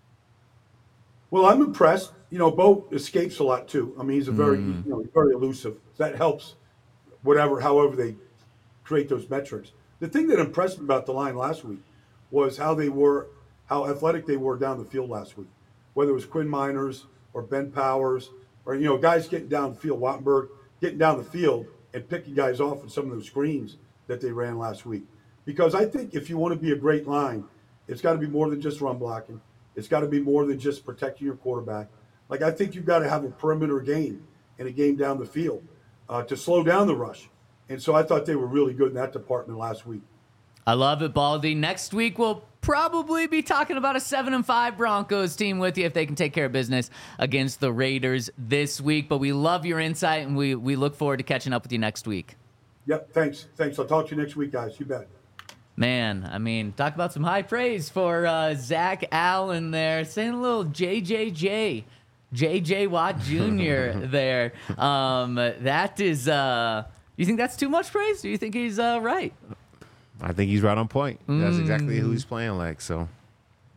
Well, I'm impressed. Bo escapes a lot too. I mean, he's very elusive. That helps however they create those metrics. The thing that impressed me about the line last week was how athletic they were down the field last week. Whether it was Quinn Miners or Ben Powers or, guys getting downfield, Wattenberg getting down the field and picking guys off with some of those screens that they ran last week. Because I think if you want to be a great line, it's got to be more than just run blocking. It's got to be more than just protecting your quarterback. Like, I think you've got to have a perimeter game and a game down the field to slow down the rush. And so I thought they were really good in that department last week. I love it, Baldy. Next week, we'll probably be talking about a 7-5 Broncos team with you if they can take care of business against the Raiders this week. But we love your insight, and we look forward to catching up with you next week. Yep, thanks. I'll talk to you next week, guys. You bet. Man, I mean, talk about some high praise for Zach Allen there, saying a little JJ Watt Jr. there. That is, you think that's too much praise? Do you think he's right? I think he's right on point. That's exactly who he's playing like. So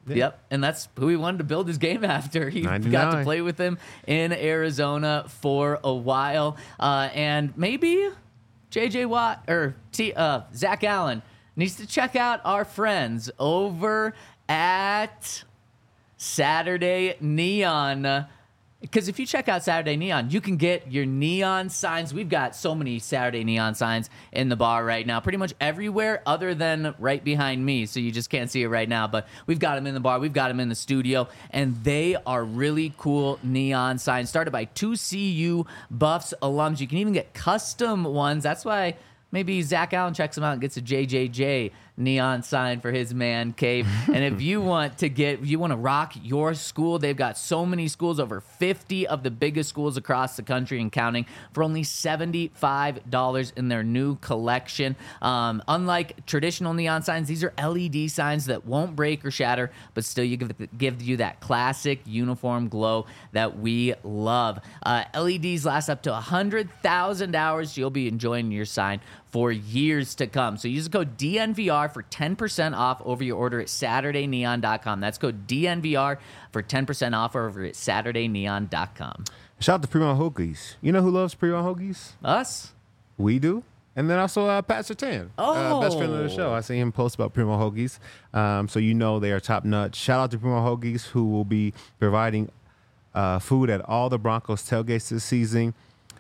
Yep, and that's who he wanted to build his game after. He got to 99. play with him in Arizona for a while. And maybe J.J. Watt or Zach Allen needs to check out our friends over at Saturday Neon. Because if you check out Saturday Neon, you can get your neon signs. We've got so many Saturday Neon signs in the bar right now, pretty much everywhere other than right behind me. So you just can't see it right now. But we've got them in the bar. We've got them in the studio. And they are really cool neon signs started by 2 CU Buffs alums. You can even get custom ones. That's why maybe Zach Allen checks them out and gets a JJJ neon sign for his man cave. And if you want to rock your school, they've got so many schools, over 50 of the biggest schools across the country and counting, for only $75 in their new collection. Unlike traditional neon signs, these are LED signs that won't break or shatter, but still give you that classic uniform glow that we love. LEDs last up to 100,000 hours. You'll be enjoying your sign for years to come. So use the code DNVR for 10% off over your order at SaturdayNeon.com. That's code DNVR for 10% off over at SaturdayNeon.com. Shout out to Primo Hoagies. You know who loves Primo Hoagies? Us? We do. And then also Pat Sertan, best friend of the show. I see him post about Primo Hoagies. So you know they are top notch. Shout out to Primo Hoagies, who will be providing food at all the Broncos tailgates this season.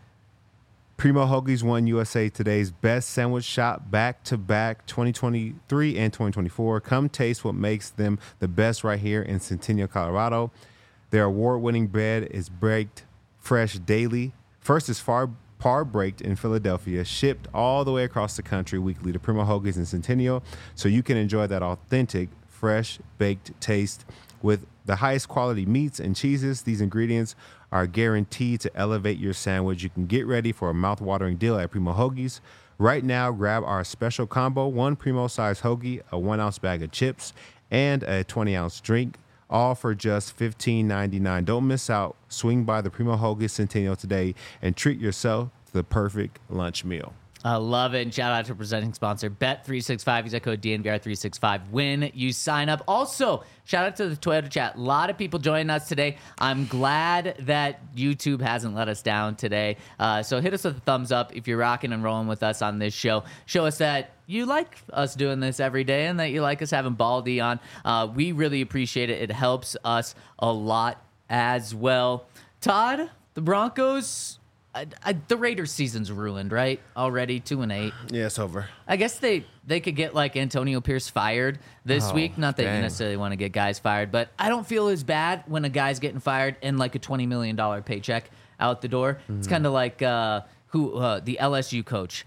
Primo Hoagies won USA Today's Best Sandwich Shop back-to-back 2023 and 2024. Come taste what makes them the best right here in Centennial, Colorado. Their award-winning bread is baked fresh daily. First is par baked in Philadelphia, shipped all the way across the country weekly to Primo Hoagies in Centennial, so you can enjoy that authentic, fresh baked taste with the highest quality meats and cheeses. These ingredients are guaranteed to elevate your sandwich. You can get ready for a mouth-watering deal at Primo Hoagies. Right now, grab our special combo, 1 Primo-sized hoagie, a 1-ounce bag of chips, and a 20-ounce drink, all for just $15.99. Don't miss out. Swing by the Primo Hoagies Centennial today and treat yourself to the perfect lunch meal. I love it. And shout out to presenting sponsor Bet365. Use that code DNVR365 when you sign up. Also, shout out to the Toyota chat. A lot of people joining us today. I'm glad that YouTube hasn't let us down today. So hit us with a thumbs up if you're rocking and rolling with us on this show. Show us that you like us doing this every day and that you like us having Baldy on. We really appreciate it. It helps us a lot as well. Todd, the Broncos... the Raiders season's ruined, right? Already 2-8. Yeah, it's over. I guess they could get like Antonio Pierce fired this week. Not that you necessarily want to get guys fired, but I don't feel as bad when a guy's getting fired and like a $20 million paycheck out the door. It's kind of like the LSU coach.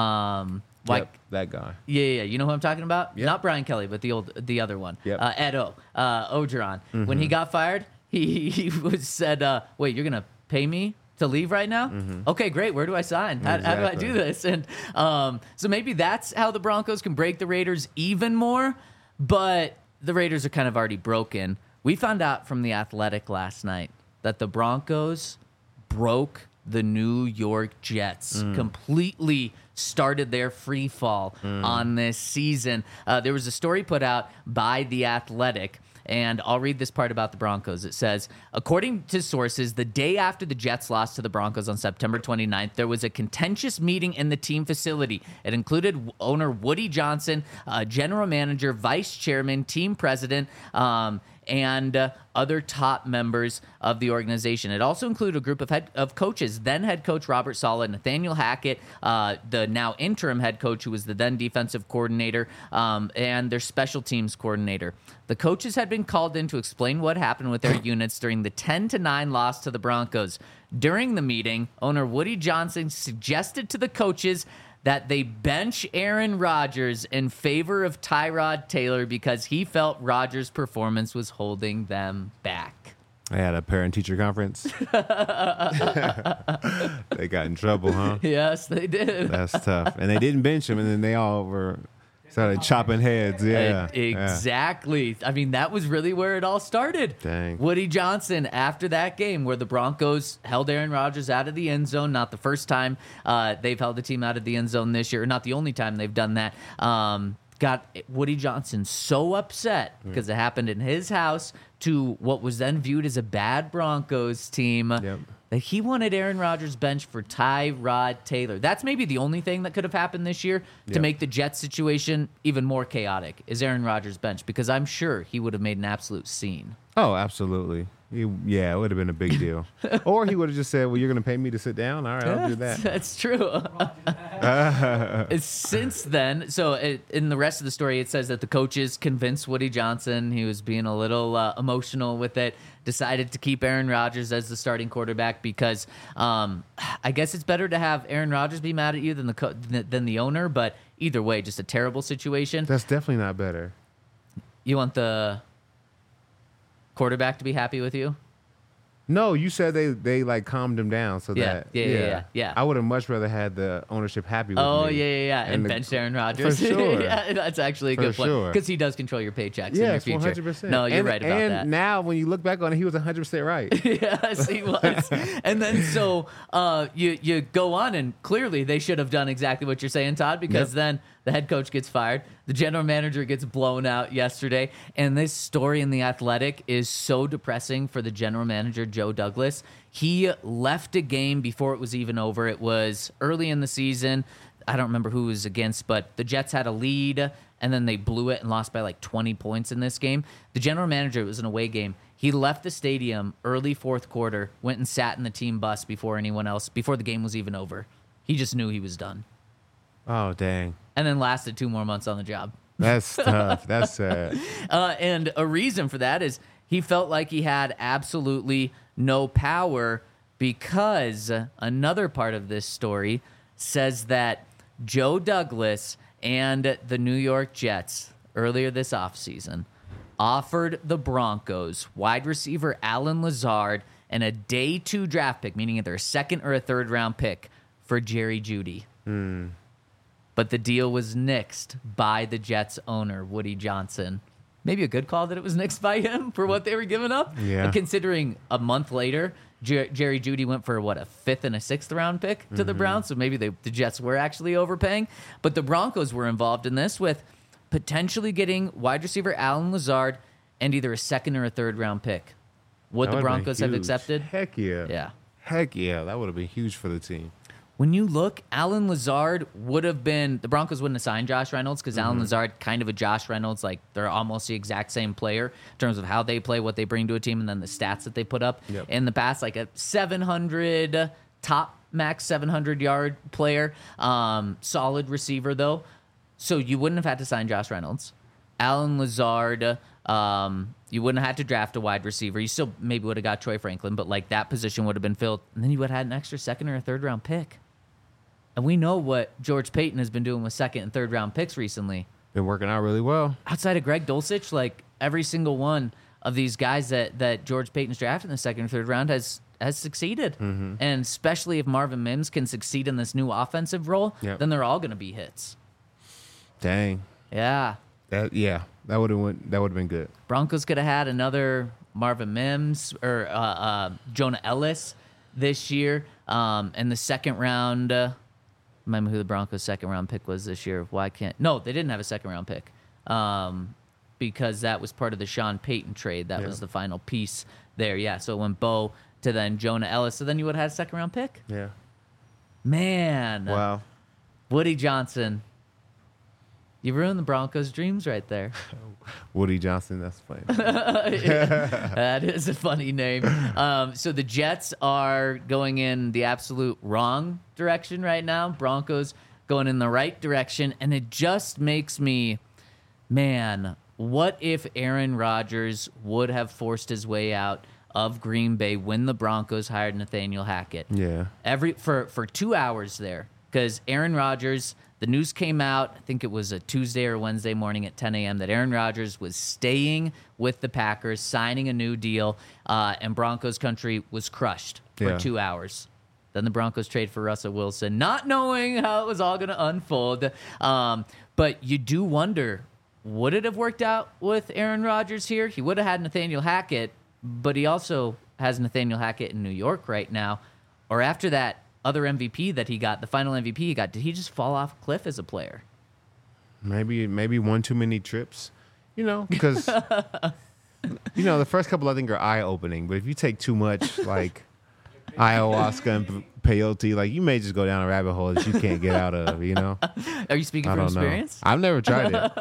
That guy. Yeah. You know who I'm talking about? Yep. Not Brian Kelly, but the other one. Yep. Ed Ogeron. When he got fired, he said, "Wait, you're gonna pay me to leave right now? Okay, great. Where do I sign? How do I do this?" And so maybe that's how the Broncos can break the Raiders even more. But the Raiders are kind of already broken. We found out from The Athletic last night that the Broncos broke the New York Jets, completely started their free fall on this season. There was a story put out by The Athletic, and I'll read this part about the Broncos. It says, according to sources, the day after the Jets lost to the Broncos on September 29th, there was a contentious meeting in the team facility. It included owner Woody Johnson, general manager, vice chairman, team president, and other top members of the organization. It also included a group of coaches, then head coach Robert Saleh, Nathaniel Hackett, the now interim head coach who was the then defensive coordinator, and their special teams coordinator. The coaches had been called in to explain what happened with their units during the 10-9 loss to the Broncos. During the meeting, owner Woody Johnson suggested to the coaches that they bench Aaron Rodgers in favor of Tyrod Taylor because he felt Rodgers' performance was holding them back. I had a parent-teacher conference. They got in trouble, huh? Yes, they did. That's tough. And they didn't bench him, and then they all started chopping heads. Yeah. Exactly. I mean, that was really where it all started. Dang. Woody Johnson, after that game where the Broncos held Aaron Rodgers out of the end zone, not the first time they've held the team out of the end zone this year, or not the only time they've done that. got Woody Johnson so upset because it happened in his house to what was then viewed as a bad Broncos team that he wanted Aaron Rodgers bench for Tyrod Taylor. That's maybe the only thing that could have happened this year to make the Jets situation even more chaotic is Aaron Rodgers bench, because I'm sure he would have made an absolute scene. Oh, absolutely. It would have been a big deal. Or he would have just said, well, you're going to pay me to sit down? All right, I'll do that. That's true. Since then, in the rest of the story, it says that the coaches convinced Woody Johnson, he was being a little emotional with it, decided to keep Aaron Rodgers as the starting quarterback because I guess it's better to have Aaron Rodgers be mad at you than the owner, but either way, just a terrible situation. That's definitely not better. You want the quarterback to be happy with you? No, you said they like calmed him down so that yeah. I would have much rather had the ownership happy with me. And benched Aaron Rodgers. For sure. Yeah, that's actually a good point because he does control your paychecks in your future. 100%. No, you're right about that. And now when you look back on it, he was 100% right. Yes, he was. And then you go on, and clearly they should have done exactly what you're saying, Todd, because then the head coach gets fired. The general manager gets blown out yesterday. And this story in The Athletic is so depressing for the general manager, Joe Douglas. He left a game before it was even over. It was early in the season. I don't remember who it was against, but the Jets had a lead, and then they blew it and lost by like 20 points in this game. The general manager, it was an away game. He left the stadium early fourth quarter, went and sat in the team bus before the game was even over. He just knew he was done. Oh, dang. And then lasted 2 more months on the job. That's tough. That's sad. And a reason for that is he felt like he had absolutely no power because another part of this story says that Joe Douglas and the New York Jets earlier this offseason offered the Broncos wide receiver Alan Lazard and a day 2 draft pick, meaning either a second or a third round pick, for Jerry Jeudy. But the deal was nixed by the Jets owner, Woody Johnson. Maybe a good call that it was nixed by him for what they were giving up. Yeah. Considering a month later, Jerry Jeudy went for, a 5th and a 6th round pick to the Browns. So maybe the Jets were actually overpaying. But the Broncos were involved in this with potentially getting wide receiver Alan Lazard and either a second or a third round pick. Would the Broncos have accepted? Heck yeah. Yeah. Heck yeah. That would have been huge for the team. When you look, Alan Lazard would have been, the Broncos wouldn't have signed Josh Reynolds because Alan Lazard, kind of a Josh Reynolds, like they're almost the exact same player in terms of how they play, what they bring to a team, and then the stats that they put up in the past, like a 700, top max 700-yard player, solid receiver though. So you wouldn't have had to sign Josh Reynolds. Alan Lazard, you wouldn't have had to draft a wide receiver. You still maybe would have got Troy Franklin, but like that position would have been filled. And then you would have had an extra second or a third round pick. And we know what George Payton has been doing with second and third round picks recently. Been working out really well. Outside of Greg Dulcich, like every single one of these guys that George Payton's drafted in the second or third round has succeeded. And especially if Marvin Mims can succeed in this new offensive role, then they're all going to be hits. Dang. Yeah. That would have been good. Broncos could have had another Marvin Mims or Jonah Ellis this year. In the second round, remember who the Broncos' second round pick was this year? No, they didn't have a second round pick because that was part of the Sean Payton trade. That was the final piece there. Yeah, so it went Bo to then Jonah Ellis. So then you would have had a second round pick? Yeah. Man. Wow. Woody Johnson. You ruined the Broncos' dreams right there. Woody Johnson, that's funny. That is a funny name. So the Jets are going in the absolute wrong direction right now. Broncos going in the right direction. And it just makes me, man, what if Aaron Rodgers would have forced his way out of Green Bay when the Broncos hired Nathaniel Hackett? Yeah. For 2 hours there. Because Aaron Rodgers, the news came out, I think it was a Tuesday or Wednesday morning at 10 a.m., that Aaron Rodgers was staying with the Packers, signing a new deal, and Broncos country was crushed for 2 hours. Then the Broncos trade for Russell Wilson, not knowing how it was all going to unfold. But you do wonder, would it have worked out with Aaron Rodgers here? He would have had Nathaniel Hackett, but he also has Nathaniel Hackett in New York right now. Or after that other MVP that he got, the final MVP he got, did he just fall off a cliff as a player? Maybe one too many trips, because the first couple I think are eye opening. But if you take too much, like ayahuasca and peyote, like you may just go down a rabbit hole that you can't get out of. Are you speaking from experience? I've never tried it.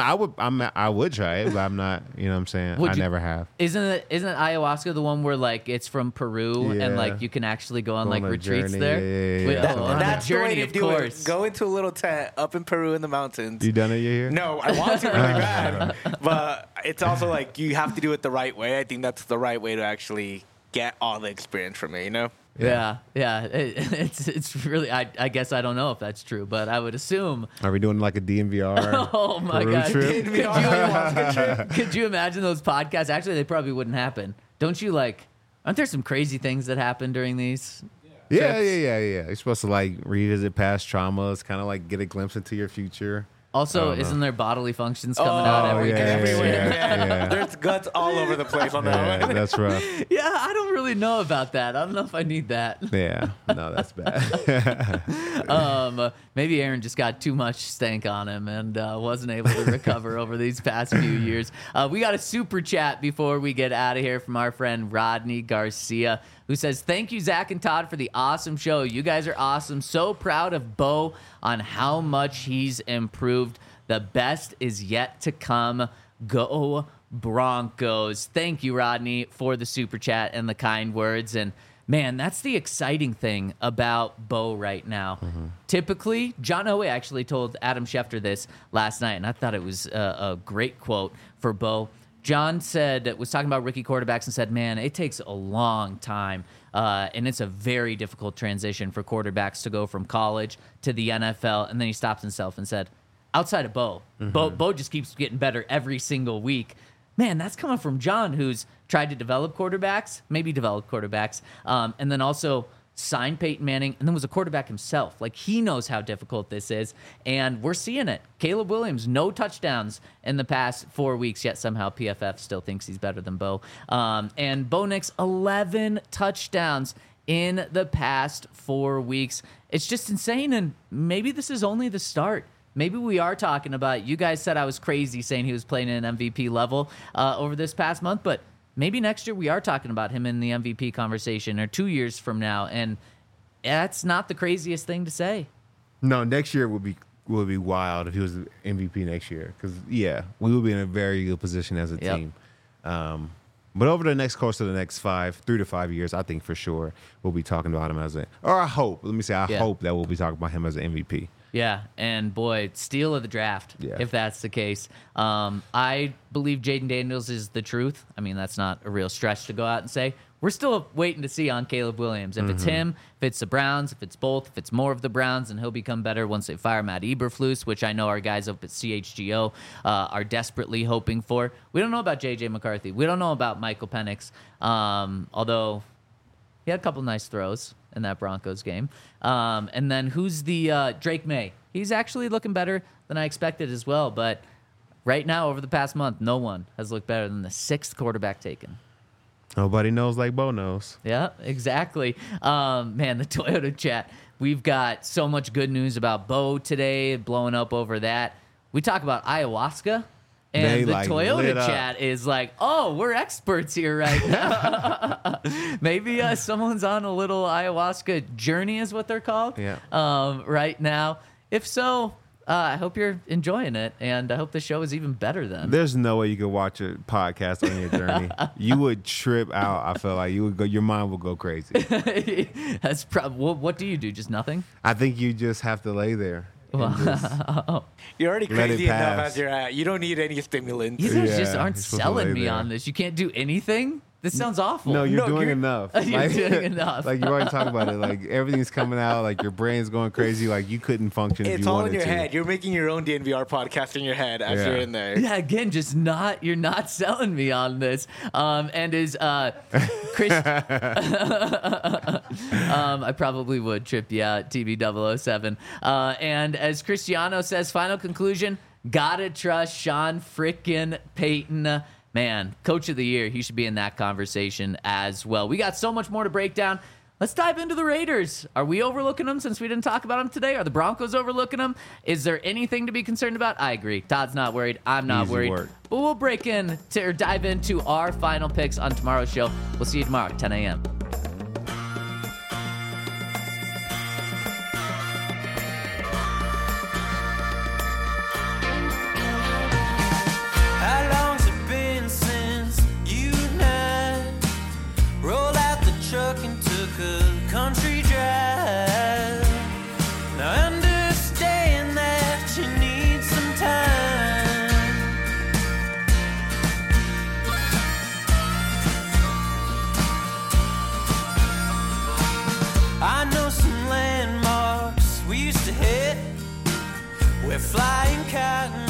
I would try it, but I'm not. You know what I'm saying? I never have. Isn't ayahuasca the one where like it's from Peru and like you can actually go on like retreats journey. there? Yeah. That's the way journey, to of do course. it. Go into a little tent up in Peru in the mountains. You done it here? No, I want to really bad, but it's also like you have to do it the right way. I think that's the right way to actually get all the experience from it. Yeah. It's really. I guess I don't know if that's true, but I would assume. Are we doing like a DMVR? Oh my Peru God! trip? Could you imagine those podcasts? Actually, they probably wouldn't happen. Don't you like? Aren't there some crazy things that happen during these? Yeah. You're supposed to like revisit past traumas, kind of like get a glimpse into your future. Also, isn't there bodily functions coming out everywhere? Yeah. There's guts all over the place on that one. That's rough. Yeah, I don't really know about that. I don't know if I need that. Yeah, no, that's bad. Maybe Aaron just got too much stank on him and wasn't able to recover over these past few years. We got a super chat before we get out of here from our friend Rodney Garcia, who says, "Thank you, Zach and Todd, for the awesome show. You guys are awesome. So proud of Bo on how much he's improved. The best is yet to come. Go Broncos." Thank you, Rodney, for the super chat and the kind words. And man, that's the exciting thing about Bo right now. Typically, John Elway actually told Adam Schefter this last night, and I thought it was a great quote for Bo. John was talking about rookie quarterbacks and said, man, it takes a long time, and it's a very difficult transition for quarterbacks to go from college to the NFL. And then he stops himself and said, outside of Bo, Bo just keeps getting better every single week. Man, that's coming from John, who's tried to develop quarterbacks, and then also signed Peyton Manning, and then was a quarterback himself. Like, he knows how difficult this is, and we're seeing it. Caleb Williams, no touchdowns in the past 4 weeks, yet somehow PFF still thinks he's better than Bo. And Bo Nix, 11 touchdowns in the past 4 weeks. It's just insane, and maybe this is only the start. Maybe we are talking about, you guys said I was crazy saying he was playing at an MVP level over this past month, but maybe next year we are talking about him in the MVP conversation, or 2 years from now, and that's not the craziest thing to say. No, next year would be wild if he was MVP next year, because we would be in a very good position as a team. But over the course of the next 3 to 5 years, I think for sure we'll be talking about him I hope that we'll be talking about him as an MVP. Yeah, and boy, steal of the draft, if that's the case. I believe Jaden Daniels is the truth. I mean, that's not a real stretch to go out and say. We're still waiting to see on Caleb Williams. If it's him, if it's the Browns, if it's both, if it's more of the Browns, and he'll become better once they fire Matt Eberflus, which I know our guys up at CHGO are desperately hoping for. We don't know about J.J. McCarthy. We don't know about Michael Penix, although he had a couple nice throws in that Broncos game. And then who's the Drake May? He's actually looking better than I expected as well. But right now, over the past month, no one has looked better than the 6th quarterback taken. Nobody knows like Bo knows. Yeah, exactly. Man, the Toyota chat. We've got so much good news about Bo today, blowing up over that. We talk about ayahuasca. And the Toyota chat is like, oh, we're experts here right now. Maybe someone's on a little ayahuasca journey is what they're called right now. If so, I hope you're enjoying it, and I hope the show is even better then. There's no way you could watch a podcast on your journey. You would trip out. I feel like your mind would go crazy. That's what do you do? Just nothing? I think you just have to lay there. You're already crazy enough as you're at. You don't need any stimulants. You guys just aren't selling me on this. You can't do anything? This sounds awful. No, you're doing enough. You're doing enough. Like, you already talked about it. Like, everything's coming out. Like, your brain's going crazy. Like, you couldn't function if you wanted to. It's all in your head. You're making your own DNVR podcast in your head as you're in there. Yeah, again, you're not selling me on this. And is Chris... I probably would trip you out, TB007. And as Cristiano says, final conclusion, gotta trust Sean frickin' Payton. Man, Coach of the Year, he should be in that conversation as well. We got so much more to break down. Let's dive into the Raiders. Are we overlooking them since we didn't talk about them today? Are the Broncos overlooking them? Is there anything to be concerned about? I agree. Todd's not worried. I'm not Easy worried. work. But we'll dive into our final picks on tomorrow's show. We'll see you tomorrow at 10 a.m. How long's it been since you and I rolled out the truck and took a country drive? Now I understand that you need some time. I know some landmarks we used to hit where flying cotton